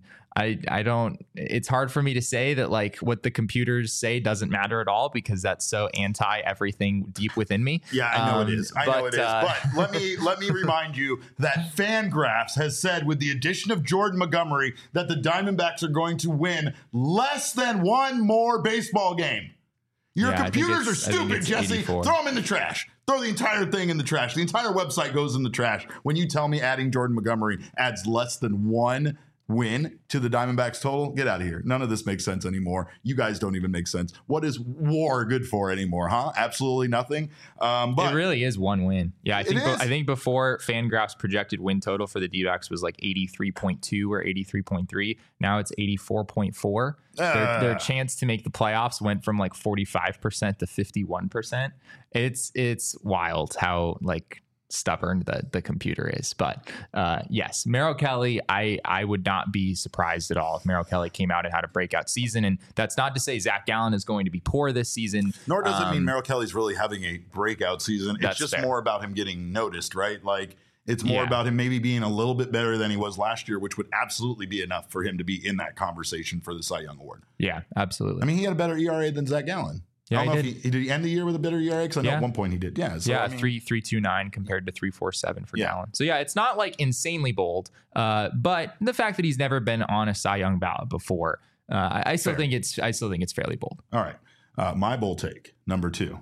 it's hard for me to say that like what the computers say doesn't matter at all, because that's so anti everything deep within me. Yeah, I know it is. But let me remind you that Fangraphs has said with the addition of Jordan Montgomery that the Diamondbacks are going to win less than one more baseball game. Your computers are stupid, Jesse. 84. Throw them in the trash. Throw the entire thing in the trash. The entire website goes in the trash when you tell me adding Jordan Montgomery adds less than one win to the Diamondbacks total. Get out of here. None of this makes sense anymore. You guys don't even make sense. What is WAR good for anymore, huh? Absolutely nothing. But it really is one win. Yeah, I think before Fangraphs projected win total for the D-backs was like 83.2 or 83.3. Now it's 84.4. Their chance to make the playoffs went from like 45% to 51%. It's wild how like stubborn the computer is. But yes, Merrill Kelly, I would not be surprised at all if Merrill Kelly came out and had a breakout season. And that's not to say Zach Gallen is going to be poor this season. Nor does it mean Merrill Kelly's really having a breakout season. It's just more about him getting noticed, right? Like, it's more about him maybe being a little bit better than he was last year, which would absolutely be enough for him to be in that conversation for the Cy Young Award. Yeah, absolutely. I mean, he had a better ERA than Zach Gallen. Yeah, I don't know if did he end the year with a better ERA? Because I know at one point he did. Yeah. So, 3.29 compared to 3.47 for Gallen. So yeah, it's not like insanely bold, but the fact that he's never been on a Cy Young ballot before, I still think it's fairly bold. All right, my bold take number 2.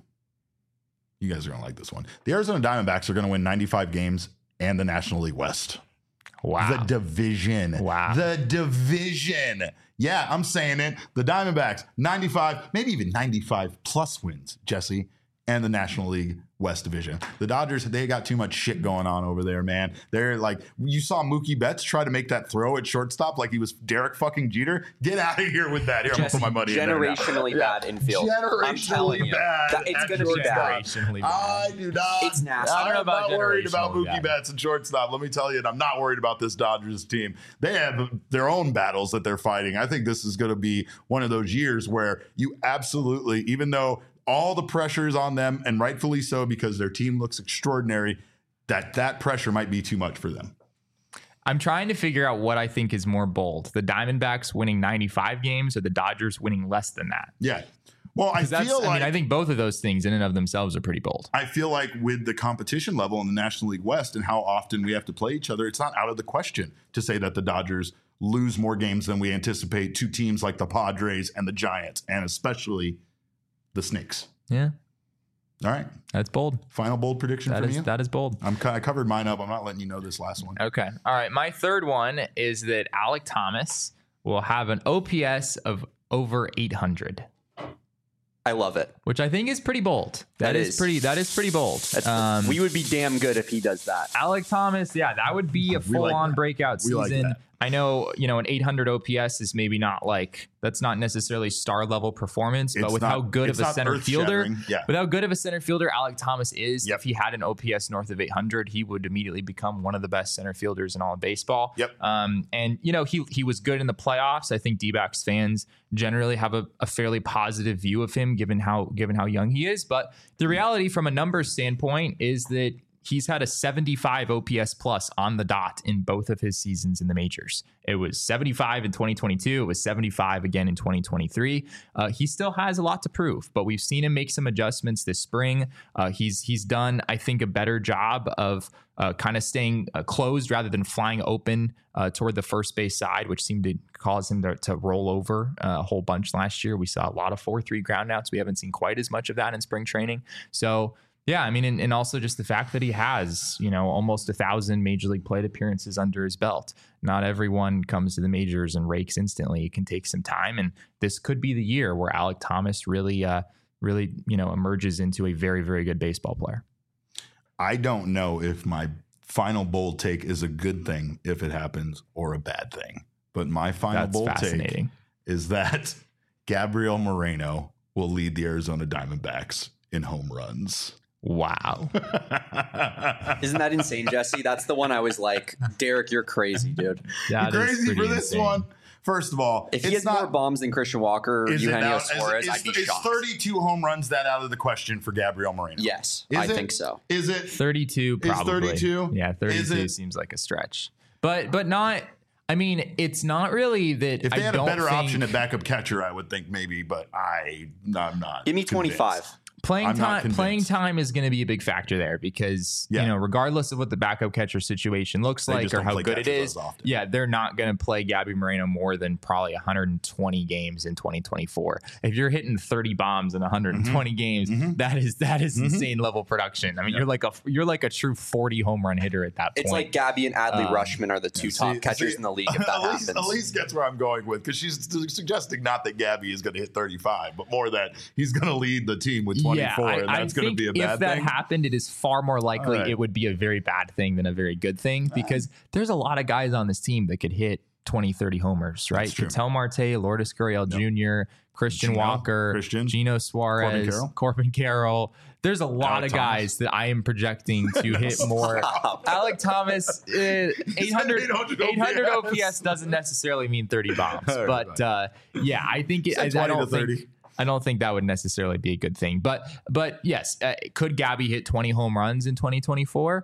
You guys are gonna like this one. The Arizona Diamondbacks are gonna win 95 games and the National League West. Wow. The division. Wow. The division. Yeah, I'm saying it. The Diamondbacks, 95, maybe even 95 plus wins, Jesse, and the National League West Division. The Dodgers, they got too much shit going on over there, man. They're like, you saw Mookie Betts try to make that throw at shortstop like he was Derek fucking Jeter. Get out of here with that. Here, Jesse, I'm going to put my money in there. Generationally bad infield. I'm telling you. Bad. It's going to be bad. I do not. It's nasty. I'm not worried about Mookie Betts and shortstop. Let me tell you, and I'm not worried about this Dodgers team. They have their own battles that they're fighting. I think this is going to be one of those years where you absolutely, even though all the pressure is on them, and rightfully so, because their team looks extraordinary, that pressure might be too much for them. I'm trying to figure out what I think is more bold. The Diamondbacks winning 95 games or the Dodgers winning less than that? Yeah. Well, I think both of those things in and of themselves are pretty bold. I feel like with the competition level in the National League West and how often we have to play each other, it's not out of the question to say that the Dodgers lose more games than we anticipate to teams like the Padres and the Giants, and especially the Snakes. Yeah. All right. That's bold. Final bold prediction from you? That is bold. I covered mine up. I'm not letting you know this last one. Okay. All right. My third one is that Alek Thomas will have an OPS of over 800. I love it. Which I think is pretty bold. That is pretty bold. We would be damn good if he does that. Alek Thomas, yeah, that would be a full-on breakout season. Like I know, an 800 OPS is maybe not that's not necessarily star level performance, but with how good of a center fielder, Alek Thomas is, if he had an OPS north of 800, he would immediately become one of the best center fielders in all of baseball. Yep. And he was good in the playoffs. I think D-backs fans generally have a fairly positive view of him given how young he is. But the reality from a numbers standpoint is that he's had a 75 OPS plus on the dot in both of his seasons in the majors. It was 75 in 2022. It was 75 again in 2023. He still has a lot to prove, but we've seen him make some adjustments this spring. He's done, I think, a better job of kind of staying closed rather than flying open toward the first base side, which seemed to cause him to roll over a whole bunch last year. We saw a lot of 4-3 groundouts. We haven't seen quite as much of that in spring training. So yeah, I mean, and also just the fact that he has, almost 1,000 major league plate appearances under his belt. Not everyone comes to the majors and rakes instantly. It can take some time. And this could be the year where Alek Thomas really, emerges into a very, very good baseball player. I don't know if my final bold take is a good thing if it happens or a bad thing. But my final bold take is that Gabriel Moreno will lead the Arizona Diamondbacks in home runs. Wow. Isn't that insane, Jesse? That's the one I was like, Derek, you're crazy, dude. You're crazy for this one. First of all, if he has more bombs than Christian Walker or Eugenio Suarez, I'd be shocked. Is 32 home runs that out of the question for Gabriel Moreno? Yes, I think so. Is it 32? Probably. Is 32? Yeah, 32 seems like a stretch, but not. I mean, it's not really that. If they had a better option at backup catcher, I would think maybe, but I'm not. Give me 25. Playing time is going to be a big factor there because, regardless of what the backup catcher situation looks like or how good it is, they're not going to play Gabby Moreno more than probably 120 games in 2024. If you're hitting 30 bombs in 120 games, that is insane level production. I mean, you're like a true 40 home run hitter at that point. It's like Gabby and Adley Rutschman are the two top catchers in the league if that happens. Elise gets where I'm going with because she's suggesting not that Gabby is going to hit 35, but more that he's going to lead the team with 24, and that's going to be a bad thing. If that happened, it is far more likely it would be a very bad thing than a very good thing because there's a lot of guys on this team that could hit 20, 30 homers, right? Ketel Marte, Lourdes Gurriel Jr., Christian Walker, Gino Suarez, Corbin Carroll. There's a lot of guys that I am projecting to hit more. Alek Thomas, 800 OPS doesn't necessarily mean 30 bombs, but I think I don't think that would necessarily be a good thing. But yes, could Gabby hit 20 home runs in 2024?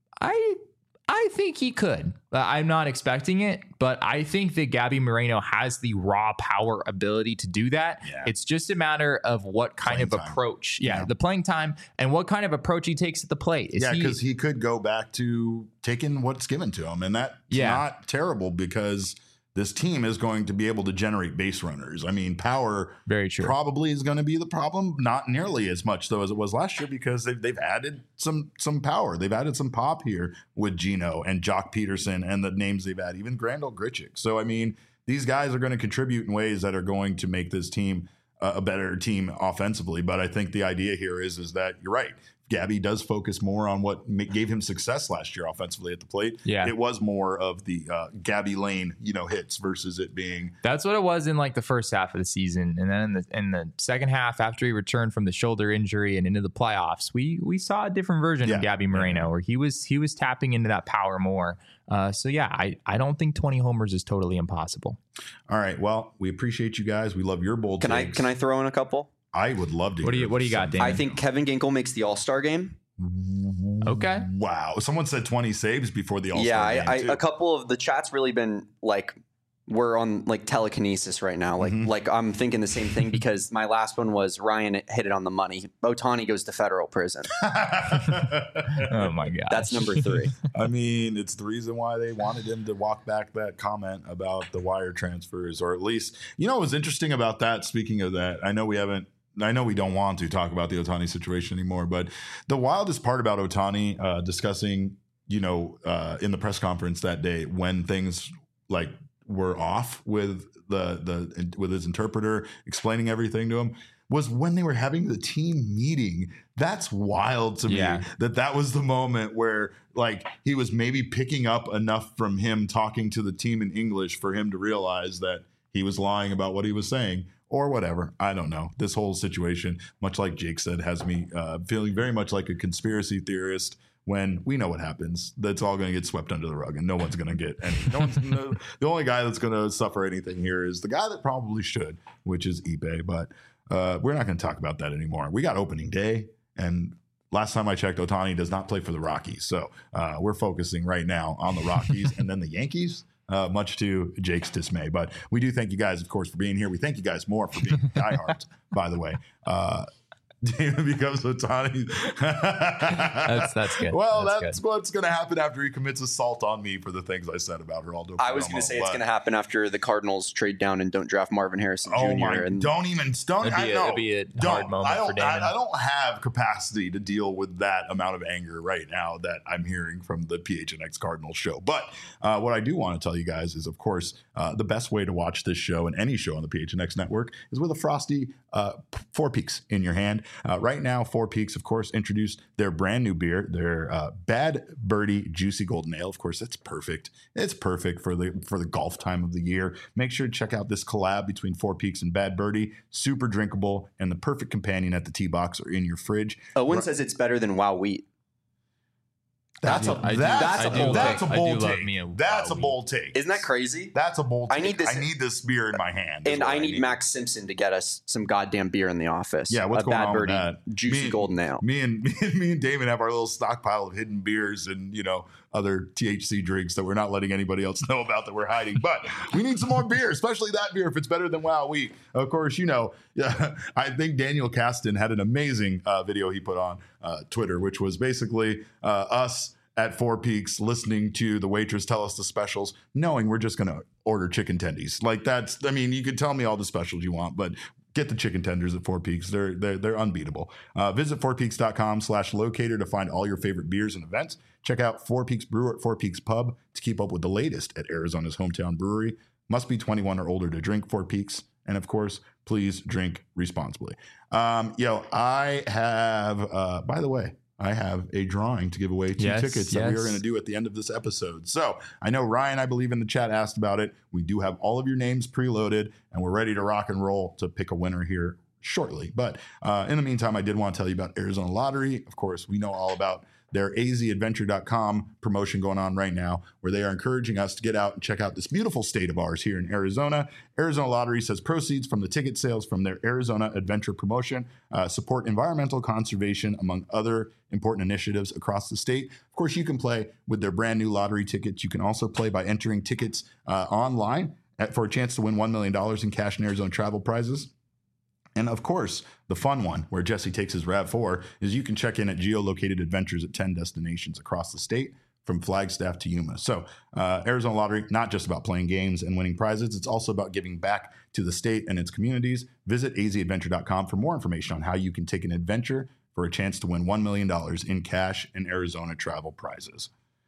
I think he could. I'm not expecting it, but I think that Gabby Moreno has the raw power ability to do that. Yeah. It's just a matter of what kind of approach. The playing time and what kind of approach he takes at the plate. Because he could go back to taking what's given to him. And that's not terrible because this team is going to be able to generate base runners. I mean, power probably is going to be the problem. Not nearly as much, though, as it was last year because they've added some power. They've added some pop here with Gino and Jock Peterson and the names they've added, even Grandal Grichuk. So, I mean, these guys are going to contribute in ways that are going to make this team a better team offensively. But I think the idea here is that you're right. Gabby does focus more on what gave him success last year offensively at the plate. Yeah, it was more of the Gabby Lane, hits versus it being. That's what it was in like the first half of the season, and then in the second half, after he returned from the shoulder injury and into the playoffs, we saw a different version of Gabby Moreno where he was tapping into that power more. I don't think 20 homers is totally impossible. All right, well, we appreciate you guys. We love your bold takes. Can I throw in a couple? I would love to. What do you got, Dan? I think Kevin Ginkel makes the All-Star game. Okay. Wow. Someone said 20 saves before the All-Star game. A couple of the chat's really been like, we're on like telekinesis right now. Like I'm thinking the same thing because my last one was Ryan hit it on the money. Ohtani goes to federal prison. Oh my God. That's number 3. I mean, it's the reason why they wanted him to walk back that comment about the wire transfers, or at least, what was interesting about that, speaking of that, I know we haven't I know we don't want to talk about the Ohtani situation anymore, but the wildest part about Ohtani discussing, in the press conference that day when things like were off with with his interpreter explaining everything to him was when they were having the team meeting. That's wild to me that was the moment where like he was maybe picking up enough from him talking to the team in English for him to realize that he was lying about what he was saying. Or whatever. I don't know. This whole situation, much like Jake said, has me feeling very much like a conspiracy theorist when we know what happens. That's all going to get swept under the rug and no one's going to get any. The only guy that's going to suffer anything here is the guy that probably should, which is Ippei. But we're not going to talk about that anymore. We got opening day. And last time I checked, Ohtani does not play for the Rockies. So we're focusing right now on the Rockies and then the Yankees. Much to Jake's dismay. But we do thank you guys, of course, for being here. We thank you guys more for being diehards, by the way. David becomes Ohtani. That's good. Well, that's what's going to happen after he commits assault on me for the things I said about Geraldo. I was going to say it's going to happen after the Cardinals trade down and don't draft Marvin Harrison Jr. Oh my! Don't. It'd be a hard moment for Damon. I don't have capacity to deal with that amount of anger right now that I'm hearing from the PHNX Cardinals show. But what I do want to tell you guys is, of course, the best way to watch this show and any show on the PHNX network is with a frosty Four Peaks in your hand. Right now, Four Peaks, of course, introduced their brand new beer, their Bad Birdie Juicy Golden Ale. Of course, that's perfect. It's perfect for the golf time of the year. Make sure to check out this collab between Four Peaks and Bad Birdie. Super drinkable and the perfect companion at the tee box or in your fridge. Owen says it's better than Wow Wheat. That's a bold take. That's a bold take. Isn't that crazy? That's a bold take. I need this beer in my hand. And I need Max Simpson to get us some goddamn beer in the office. Yeah, what's going on with that? Juicy Golden Ale. Me and Damon have our little stockpile of hidden beers and, other THC drinks that we're not letting anybody else know about that we're hiding. But we need some more beer, especially that beer if it's better than Wow Wheat. Of course, I think Daniel Caston had an amazing video he put on Twitter, which was basically us at Four Peaks listening to the waitress tell us the specials, knowing we're just going to order chicken tendies. Like you could tell me all the specials you want, but get the chicken tenders at Four Peaks. They're unbeatable. Visit fourpeaks.com/locator to find all your favorite beers and events. Check out Four Peaks Brewer at Four Peaks Pub to keep up with the latest at Arizona's hometown brewery. Must be 21 or older to drink Four Peaks. And of course, please drink responsibly. I have, by the way, I have a drawing to give away two tickets that we are going to do at the end of this episode. So I know Ryan, I believe in the chat, asked about it. We do have all of your names preloaded and we're ready to rock and roll to pick a winner here shortly. But in the meantime, I did want to tell you about Arizona Lottery. Of course, we know all about their azadventure.com promotion going on right now, where they are encouraging us to get out and check out this beautiful state of ours here in Arizona. Arizona Lottery says proceeds from the ticket sales from their Arizona Adventure promotion support environmental conservation, among other important initiatives across the state. Of course, you can play with their brand new lottery tickets. You can also play by entering tickets online for a chance to win $1 million in cash and Arizona travel prizes. And of course, the fun one where Jesse takes his RAV4 is you can check in at geolocated adventures at 10 destinations across the state from Flagstaff to Yuma. So Arizona Lottery, not just about playing games and winning prizes. It's also about giving back to the state and its communities. Visit azadventure.com for more information on how you can take an adventure for a chance to win $1 million in cash and Arizona travel prizes.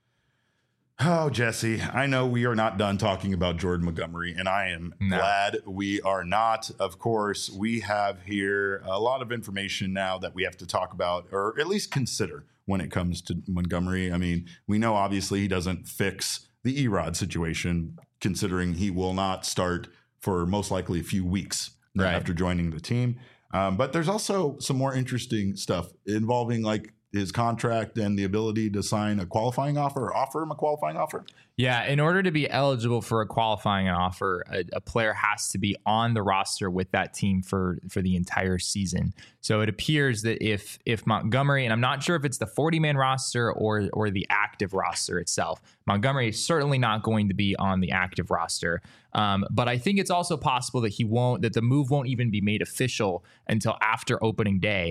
Oh, Jesse, I know we are not done talking about Jordan Montgomery, and I am glad we are not. Of course, we have here a lot of information now that we have to talk about, or at least consider when it comes to Montgomery. I mean, we know obviously he doesn't fix the Erod situation, considering he will not start for most likely a few weeks after joining the team. But there's also some more interesting stuff involving like his contract and the ability to sign a qualifying offer or offer him a qualifying offer? Yeah, in order to be eligible for a qualifying offer, a player has to be on the roster with that team for the entire season. So it appears that if Montgomery, and I'm not sure if it's the 40-man roster or the active roster itself, Montgomery is certainly not going to be on the active roster. But I think it's also possible that the move won't even be made official until after opening day.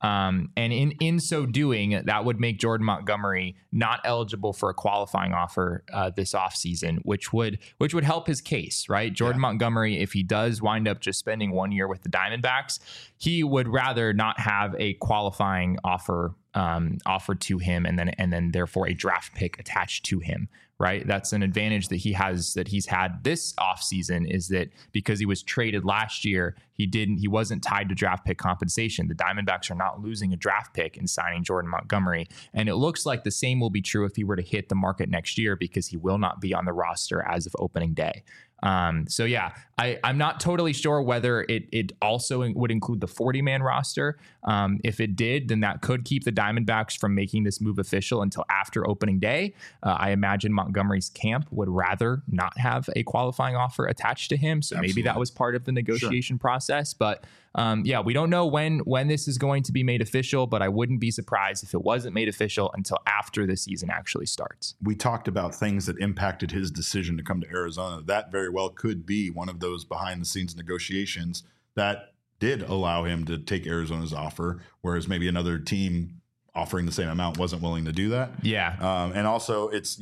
And in so doing, that would make Jordan Montgomery not eligible for a qualifying offer this offseason, which would help his case, right? Jordan Montgomery, if he does wind up just spending 1 year with the Diamondbacks, he would rather not have a qualifying offer offered to him and then therefore a draft pick attached to him. Right. That's an advantage that he's had this offseason, is that because he was traded last year, he wasn't tied to draft pick compensation. The Diamondbacks are not losing a draft pick in signing Jordan Montgomery. And it looks like the same will be true if he were to hit the market next year, because he will not be on the roster as of opening day. So yeah, I'm not totally sure whether it also would include the 40-man roster. If it did, then that could keep the Diamondbacks from making this move official until after opening day. I imagine Montgomery's camp would rather not have a qualifying offer attached to him. So maybe that was part of the negotiation process. But yeah, we don't know when this is going to be made official, but I wouldn't be surprised if it wasn't made official until after the season actually starts. We talked about things that impacted his decision to come to Arizona. That very well could be one of those behind the scenes negotiations that did allow him to take Arizona's offer, whereas maybe another team offering the same amount wasn't willing to do that. Yeah. And also it's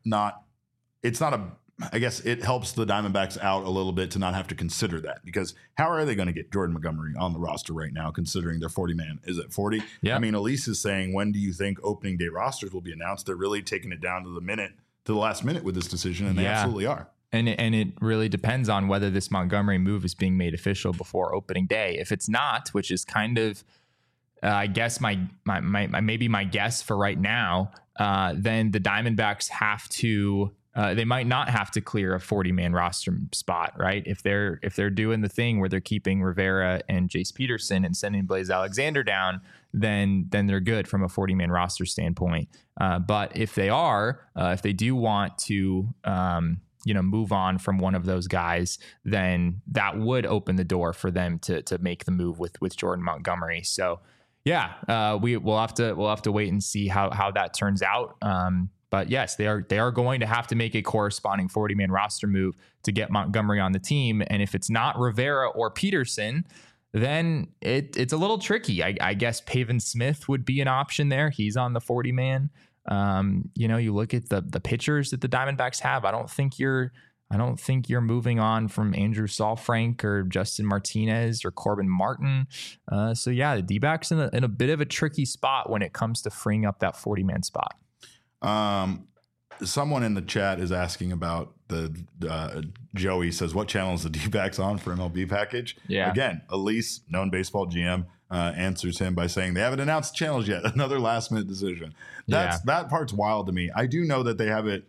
I guess it helps the Diamondbacks out a little bit to not have to consider that, because how are they going to get Jordan Montgomery on the roster right now, considering their 40-man is at 40? Yeah. I mean, Elise is saying, when do you think opening day rosters will be announced? They're really taking it down to the last minute with this decision, and they absolutely are. And it really depends on whether this Montgomery move is being made official before opening day. If it's not, which is kind of, I guess my guess for right now, then the Diamondbacks have to. They might not have to clear a 40-man roster spot, right? If they're doing the thing where they're keeping Rivera and Jace Peterson and sending Blaze Alexander down, then they're good from a 40-man roster standpoint. But if they do want to, move on from one of those guys, then that would open the door for them to make the move with Jordan Montgomery. So, yeah, we'll have to wait and see how that turns out. But yes, they are going to have to make a corresponding 40-man roster move to get Montgomery on the team. And if it's not Rivera or Peterson, then it's a little tricky. I guess Pavin Smith would be an option there. He's on the 40-man. You look at the pitchers that the Diamondbacks have. I don't think you're moving on from Andrew Saalfrank or Justin Martinez or Corbin Martin. So yeah, the D-backs in a bit of a tricky spot when it comes to freeing up that 40-man spot. Someone in the chat is asking about Joey says, what channel is the D-backs on for MLB package? Yeah. Again, Elise, known baseball GM, answers him by saying they haven't announced channels yet. Another last minute decision. That part's wild to me. I do know that they have it.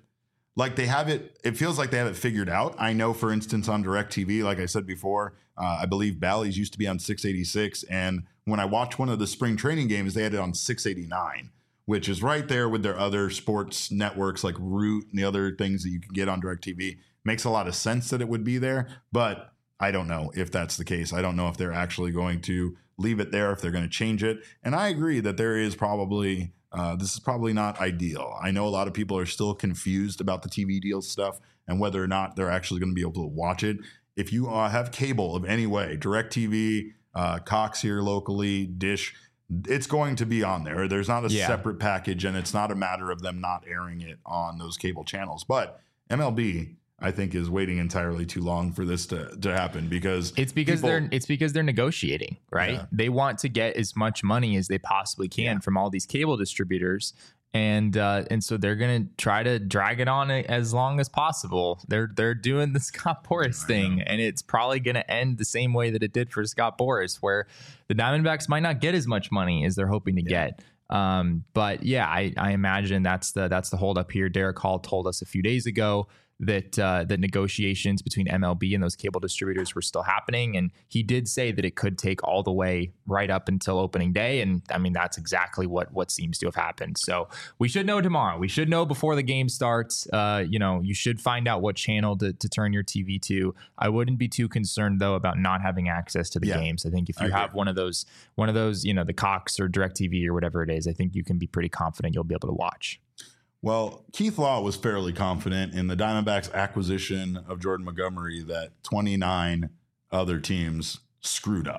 It feels like they have it figured out. I know, for instance, on DirecTV, like I said before, I believe Bally's used to be on 686. And when I watched one of the spring training games, they had it on 689. Which is right there with their other sports networks like Root and the other things that you can get on DirecTV. Makes a lot of sense that it would be there, but I don't know if that's the case. I don't know if they're actually going to leave it there, if they're going to change it. And I agree that there is probably, this is probably not ideal. I know a lot of people are still confused about the TV deal stuff and whether or not they're actually going to be able to watch it. If you have cable of any way, DirecTV, Cox here locally, Dish, it's going to be on there. There's not a separate package, and it's not a matter of them not airing it on those cable channels. But MLB, I think, is waiting entirely too long for this to happen because they're negotiating, right? Yeah. They want to get as much money as they possibly can from all these cable distributors. And so they're going to try to drag it on as long as possible. They're doing the Scott Boras thing, and it's probably going to end the same way that it did for Scott Boras, where the Diamondbacks might not get as much money as they're hoping to get. But yeah, I imagine that's the holdup here. Derek Hall told us a few days ago that the negotiations between MLB and those cable distributors were still happening. And he did say that it could take all the way right up until opening day. And I mean, that's exactly what seems to have happened. So we should know tomorrow. We should know before the game starts. You should find out what channel to turn your TV to. I wouldn't be too concerned, though, about not having access to the games. I think if you have one of those, the Cox or DirecTV or whatever it is, I think you can be pretty confident you'll be able to watch. Well, Keith Law was fairly confident in the Diamondbacks' acquisition of Jordan Montgomery that 29 other teams screwed up.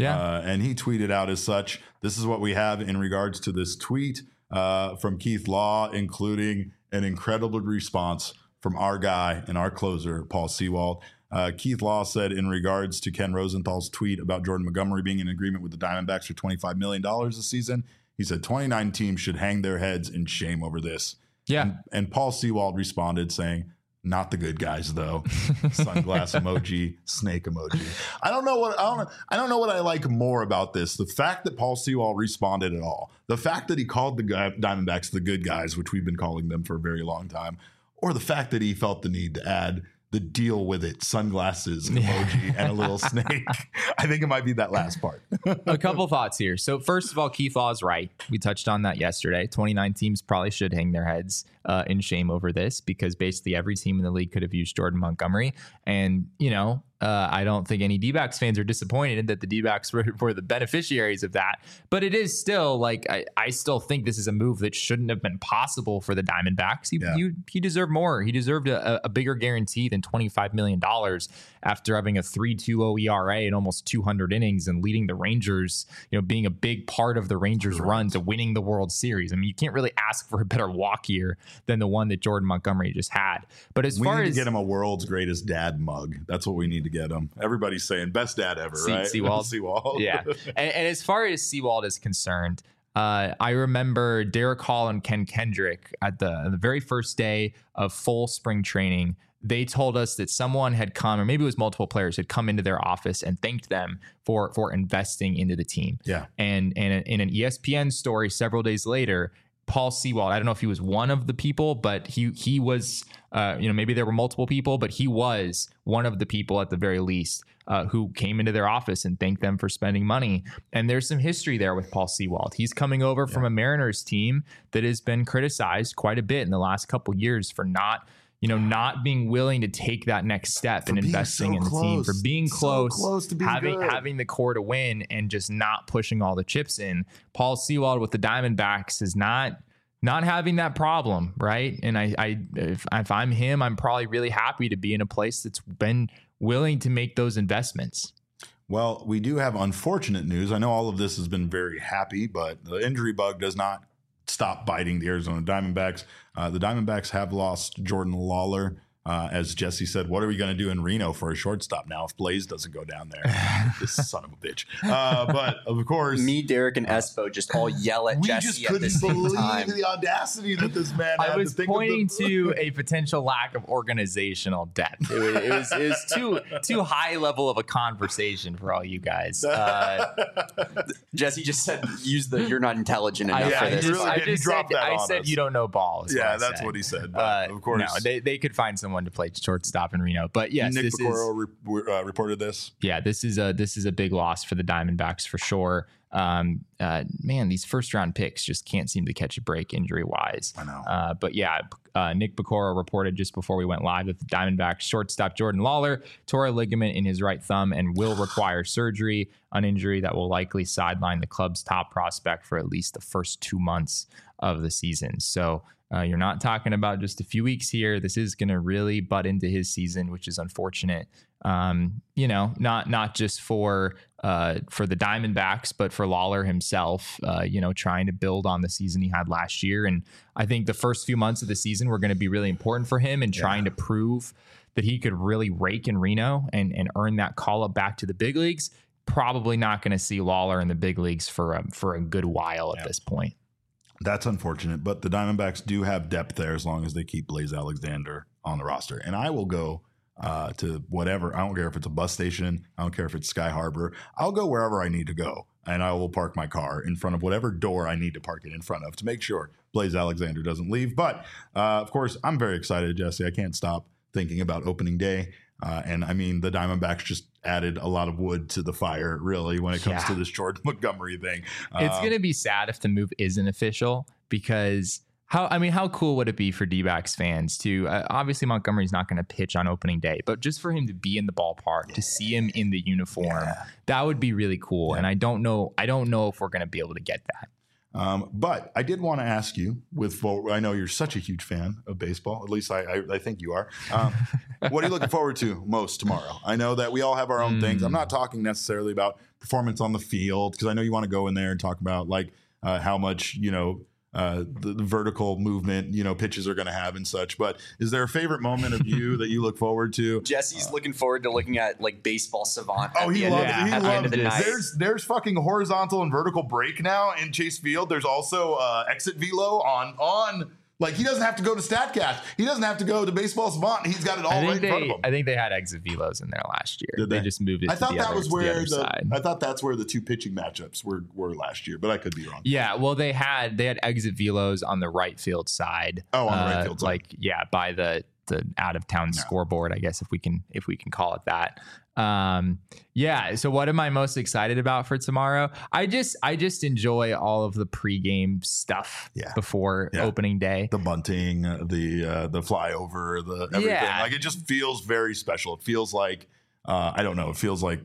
Yeah. And he tweeted out as such. This is what we have in regards to this tweet from Keith Law, including an incredible response from our guy and our closer, Paul Sewald. Keith Law said in regards to Ken Rosenthal's tweet about Jordan Montgomery being in agreement with the Diamondbacks for $25 million this season, he said 29 teams should hang their heads in shame over this. Yeah. And Paul Sewald responded saying, not the good guys though. Sunglass emoji, snake emoji. I don't know what I like more about this. The fact that Paul Sewald responded at all. The fact that he called the Diamondbacks the good guys, which we've been calling them for a very long time, or the fact that he felt the need to add the deal with it, sunglasses emoji, and a little snake. I think it might be that last part. A couple thoughts here. So first of all, Keith Law is right. We touched on that yesterday. 29 teams probably should hang their heads in shame over this, because basically every team in the league could have used Jordan Montgomery. And, I don't think any D-backs fans are disappointed that the D-backs were the beneficiaries of that. But it is still like, I still think this is a move that shouldn't have been possible for the Diamondbacks. He deserved more. He deserved a bigger guarantee than $25 million after having a 3.20 ERA and almost 200 innings and leading the Rangers, being a big part of the Rangers' run to winning the World Series. I mean, you can't really ask for a better walk here than the one that Jordan Montgomery just had. But we need to get him a world's greatest dad mug. That's what we need to get him. Everybody's saying best dad ever, right? Sewald. Yeah. And as far as Sewald is concerned, I remember Derek Hall and Ken Kendrick at the very first day of full spring training. They told us that someone had come, or maybe it was multiple players, had come into their office and thanked them for investing into the team. Yeah. And in an ESPN story several days later, Paul Sewald, I don't know if he was one of the people, but he was, maybe there were multiple people, but he was one of the people at the very least who came into their office and thanked them for spending money. And there's some history there with Paul Sewald. He's coming over from a Mariners team that has been criticized quite a bit in the last couple years for not being willing to take that next step and investing in the team, for being close to having the core to win and just not pushing all the chips in. Paul Sewald with the Diamondbacks is not having that problem, right? And if I'm him, I'm probably really happy to be in a place that's been willing to make those investments. Well, we do have unfortunate news. I know all of this has been very happy, but the injury bug does not stop biting the Arizona Diamondbacks. The Diamondbacks have lost Jordan Lawler. As Jesse said, what are we going to do in Reno for a shortstop now if Blaze doesn't go down there? This son of a bitch. But of course, me, Derek, and Espo just all yell at Jesse at the same time. We just couldn't believe the audacity that this man had. I was pointing to a potential lack of organizational depth. It was too high level of a conversation for all you guys. Jesse just said, "You're not intelligent enough for this." I said you don't know balls. Yeah, that's what he said. But of course, no, they could find someone to play shortstop in Reno. But yes, Nick Piccolo reported this. Yeah, this is a big loss for the Diamondbacks for sure. Man, these first round picks just can't seem to catch a break injury wise. I know. But yeah, Nick Piccolo reported just before we went live that the Diamondbacks shortstop Jordan Lawler tore a ligament in his right thumb and will require surgery, an injury that will likely sideline the club's top prospect for at least the first 2 months of the season. So you're not talking about just a few weeks here. This is going to really butt into his season, which is unfortunate. Not just for the Diamondbacks, but for Lawler himself, trying to build on the season he had last year. And I think the first few months of the season were going to be really important for him and trying to prove that he could really rake in Reno and earn that call up back to the big leagues. Probably not going to see Lawler in the big leagues for a good while at this point. That's unfortunate, but the Diamondbacks do have depth there as long as they keep Blaze Alexander on the roster. And I will go to whatever. I don't care if it's a bus station. I don't care if it's Sky Harbor. I'll go wherever I need to go, and I will park my car in front of whatever door I need to park it in front of to make sure Blaze Alexander doesn't leave. But, of course, I'm very excited, Jesse. I can't stop thinking about opening day. And I mean, the Diamondbacks just added a lot of wood to the fire, really, when it comes to this Jordan Montgomery thing. It's going to be sad if the move isn't official, because how cool would it be for D-backs fans to obviously Montgomery's not going to pitch on opening day, but just for him to be in the ballpark, to see him in the uniform, that would be really cool. And I don't know if we're going to be able to get that. But I did want to ask you, I know you're such a huge fan of baseball. At least I think you are. What are you looking forward to most tomorrow? I know that we all have our own things. I'm not talking necessarily about performance on the field, because I know you want to go in there and talk about how much the vertical movement pitches are going to have and such. But is there a favorite moment of you that you look forward to? Jesse's looking forward to looking at Baseball Savant. Oh, he loves it. He loves it. Night. There's fucking horizontal and vertical break now in Chase Field. There's also exit velo on. He doesn't have to go to StatCast. He doesn't have to go to Baseball Savant. He's got it all right in front of him. I think they had exit velos in there last year. Did they just moved it. I thought that was where I thought that's where the two pitching matchups were last year, but I could be wrong. Yeah, well, they had exit velos on the right field side. Oh, on the right field side. By the out of town scoreboard, I guess if we can call it that. So what am I most excited about for tomorrow? I just enjoy all of the pregame stuff before opening day. The bunting, the flyover, the everything. Yeah. It just feels very special. It feels like I don't know, it feels like,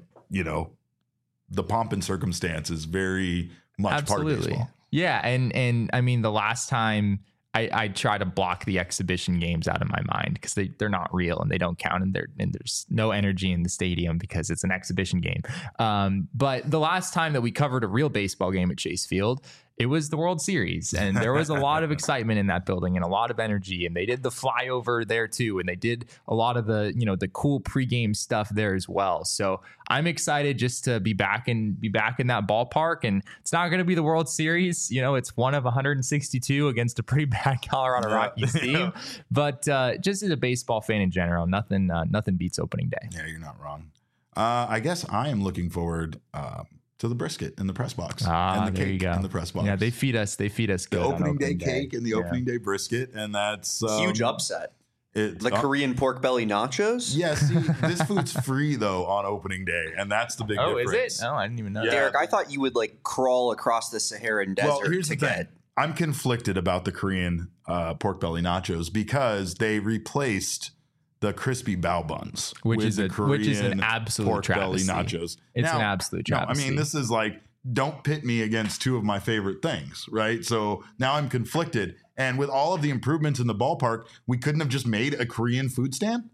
the pomp and circumstance is very much part of baseball. Yeah, and I mean the last time I try to block the exhibition games out of my mind because they're not real and they don't count, and there's no energy in the stadium because it's an exhibition game. But the last time that we covered a real baseball game at Chase Field, it was the World Series, and there was a lot of excitement in that building and a lot of energy, and they did the flyover there too, and they did a lot of the the cool pregame stuff there as well. So I'm excited just to be back in that ballpark, and it's not going to be the World Series. It's one of 162 against a pretty bad Colorado Rockies team, but just as a baseball fan in general, nothing beats opening day. Yeah, you're not wrong. I guess I am looking forward to the brisket in the press box and the cake in the press box. Yeah, they feed us good. The opening day cake and the opening day brisket, and that's huge upset. Korean pork belly nachos. Yeah, see, this food's free though on opening day, and that's the big difference. Oh, is it? No, I didn't even know. Yeah. Derek, I thought you would crawl across the Saharan desert. Well, here's the thing. I'm conflicted about the Korean pork belly nachos because they replaced the crispy bao buns, which is an absolute pork travesty. belly nachos. It's an absolute travesty. I mean, this is don't pit me against two of my favorite things, right? So now I'm conflicted. And with all of the improvements in the ballpark, we couldn't have just made a Korean food stand.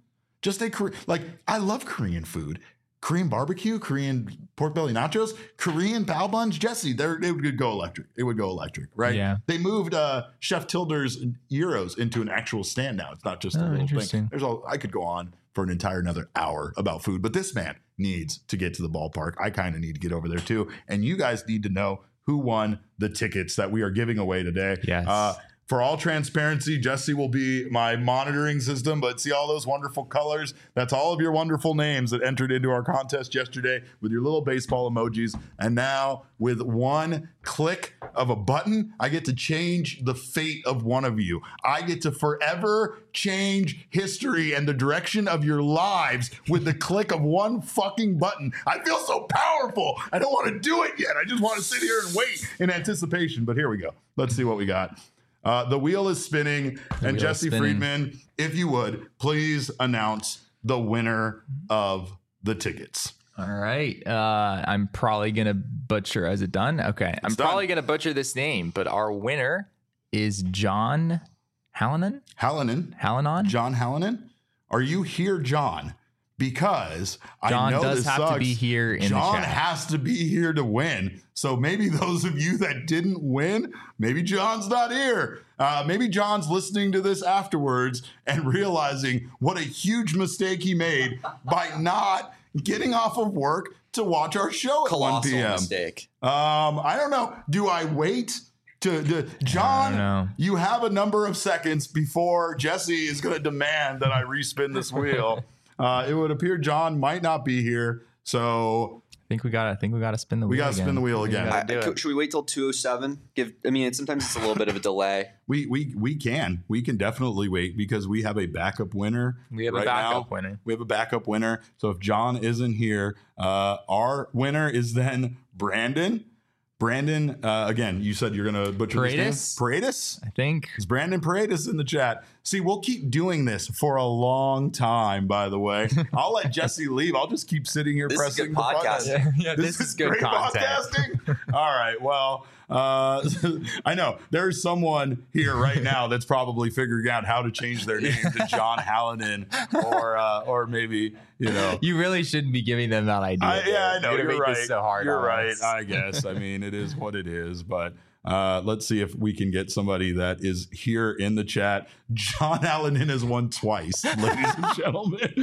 I love Korean food. Korean barbecue, Korean pork belly nachos, Korean bao buns. Jesse, it would go electric. It would go electric, right? Yeah. They moved Chef Tilder's gyros into an actual stand now. It's not just a little thing. I could go on for another hour about food, but this man needs to get to the ballpark. I kind of need to get over there too. And you guys need to know who won the tickets that we are giving away today. Yes. For all transparency, Jesse will be my monitoring system, but see all those wonderful colors? That's all of your wonderful names that entered into our contest yesterday with your little baseball emojis. And now, with one click of a button, I get to change the fate of one of you. I get to forever change history and the direction of your lives with the click of one fucking button. I feel so powerful. I don't want to do it yet. I just want to sit here and wait in anticipation. But here we go. Let's see what we got. The wheel is spinning, and Jesse Friedman, if you would, please announce the winner of the tickets. All right. I'm probably going to butcher. Is it done? Okay. I'm probably going to butcher this name, but our winner is John Hallinan. John Hallinan. Are you here, John? Because John I know does this have sucks. to be here in John the chat. has to be here to win. So maybe those of you that didn't win, maybe John's not here. Maybe John's listening to this afterwards and realizing what a huge mistake he made by not getting off of work to watch our show at 1 p.m. Mistake. I don't know. Do I wait? John, you have a number of seconds before Jesse is going to demand that I respin this wheel. It would appear John might not be here, so I think we got to spin the wheel. We got to spin the wheel again. Should we wait till 2:07? Sometimes it's a little bit of a delay. We can definitely wait because we have a backup winner. We have a backup winner. So if John isn't here, our winner is then Brandon. Brandon, again, you said you're going to butcher Paredes? his name. Paredes? I think. Is Brandon Paredes in the chat? See, we'll keep doing this for a long time, by the way. I'll let Jesse leave. I'll just keep sitting here pressing the button. Yeah, this is good great content. Podcasting. All right. Well, I know there's someone here right now that's probably figuring out how to change their name to John Hallinan or maybe, You really shouldn't be giving them that idea. I know. You're right. So hard You're on right. us. I guess. I mean, it is what it is, but let's see if we can get somebody that is here in the chat. John Hallinan has won twice, ladies and gentlemen.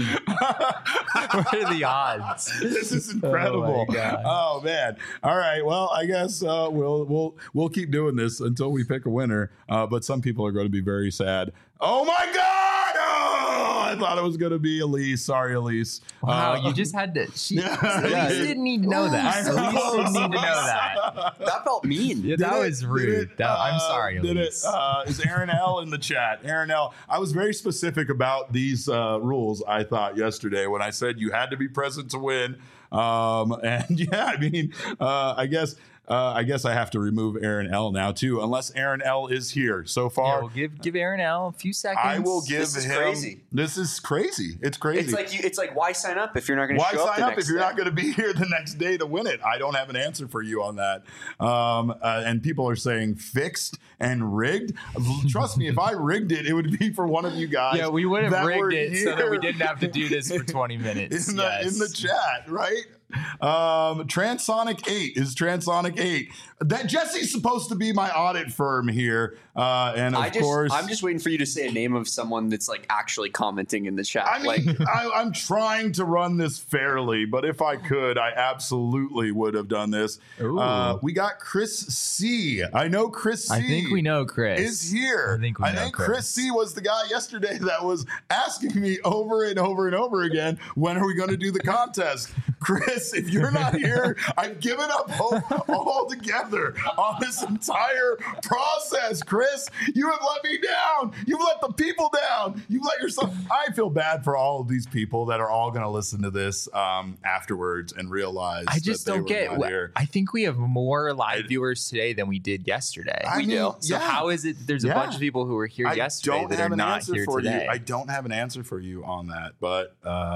What are the odds? This is incredible. Oh man. All right. Well, I guess we'll keep doing this until we pick a winner. But some people are going to be very sad. Oh my God! Oh, I thought it was going to be Elise. Sorry, Elise. Wow, you just had to. Elise didn't need to know that. Elise didn't need to know that. That felt mean. Yeah, that was rude. I'm sorry, Elise. Is Aaron L in the chat? Aaron L. I was very specific about these rules, I thought, yesterday when I said you had to be present to win. And yeah, I mean, I guess I have to remove Aaron L now too, unless Aaron L is here. So far, yeah, we'll give Aaron L a few seconds. I will give him. Crazy. This is crazy. It's crazy. It's like why sign up if you're not going to show up? Why sign up if you're not going to be here the next day to win it? I don't have an answer for you on that. And people are saying fixed and rigged. Trust me, if I rigged it, it would be for one of you guys. Yeah, we would have rigged it so that we didn't have to do this for 20 minutes. In the chat, right? Transonic 8 is Transonic 8. That Jesse's supposed to be my audit firm here. And of course, I'm just waiting for you to say a name of someone that's like actually commenting in the chat. I mean, I'm trying to run this fairly, but if I could, I absolutely would have done this. We got Chris C. I know Chris C. I think we know Chris is here. I think Chris C was the guy yesterday that was asking me over and over and over again, when are we going to do the contest? Chris, if you're not here, I've given up hope altogether on this entire process. Chris, you have let me down. You've let the people down. You've let yourself. I feel bad for all of these people that are all going to listen to this afterwards and realize. I just don't get. I think we have more live viewers today than we did yesterday. We do. So how is it? There's a bunch of people who were here yesterday that are not here today. I don't have an answer for you on that, but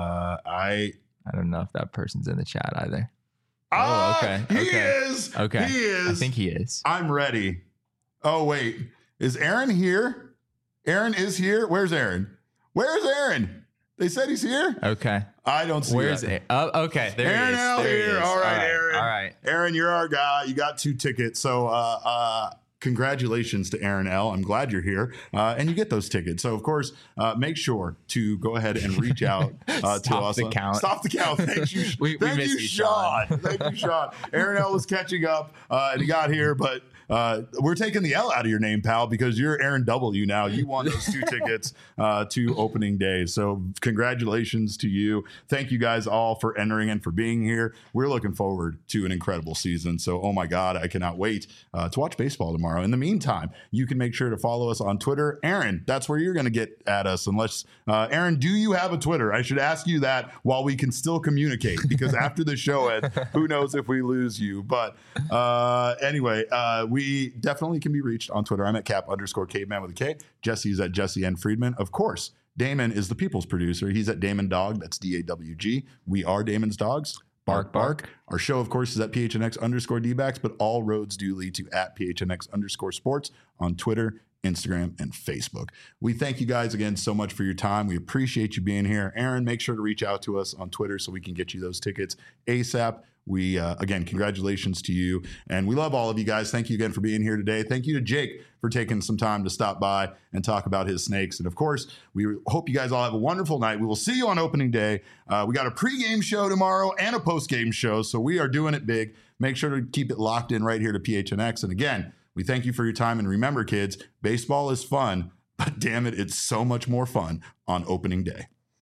I don't know if that person's in the chat either. Okay. He is. Okay. He is. I think he is. I'm ready. Oh, wait. Is Aaron here? Aaron is here. Where's Aaron? Where's Aaron? They said he's here. Okay. I don't see Where's it? Oh, okay. There Aaron he is. out There here. he is. All right, Aaron. All right. Aaron, you're our guy. You got 2 tickets. So, congratulations to Aaron L. I'm glad you're here. And you get those tickets. So, of course, make sure to go ahead and reach out to us. Stop the count. Stop the count. Thank you, we thank miss you, Sean. Thank you, Sean. Aaron L. was catching up and he got here, but we're taking the L out of your name, pal, because you're Aaron W now. You won those 2 tickets to opening day. So congratulations to you. Thank you guys all for entering and for being here. We're looking forward to an incredible season. So, oh my God, I cannot wait to watch baseball tomorrow. In the meantime, you can make sure to follow us on Twitter. Aaron, that's where you're going to get at us. Unless, Aaron, do you have a Twitter? I should ask you that while we can still communicate, because after the show, Ed, who knows if we lose you. But anyway, we definitely can be reached on Twitter. I'm at Cap_Caveman with a K. Jesse's at Jesse N. Friedman. Of course, Damon is the people's producer. He's at Damon Dog. That's DAWG. We are Damon's Dogs. Bark, bark. Our show, of course, is at PHNX_DBacks, but all roads do lead to at PHNX_sports on Twitter, Instagram, and Facebook. We thank you guys again so much for your time. We appreciate you being here. Aaron, make sure to reach out to us on Twitter so we can get you those tickets ASAP. We, again, congratulations to you. And we love all of you guys. Thank you again for being here today. Thank you to Jake for taking some time to stop by and talk about his snakes. And of course, we hope you guys all have a wonderful night. We will see you on opening day. We got a pregame show tomorrow and a postgame show. So we are doing it big. Make sure to keep it locked in right here to PHNX. And again, we thank you for your time. And remember, kids, baseball is fun, but damn it, it's so much more fun on opening day.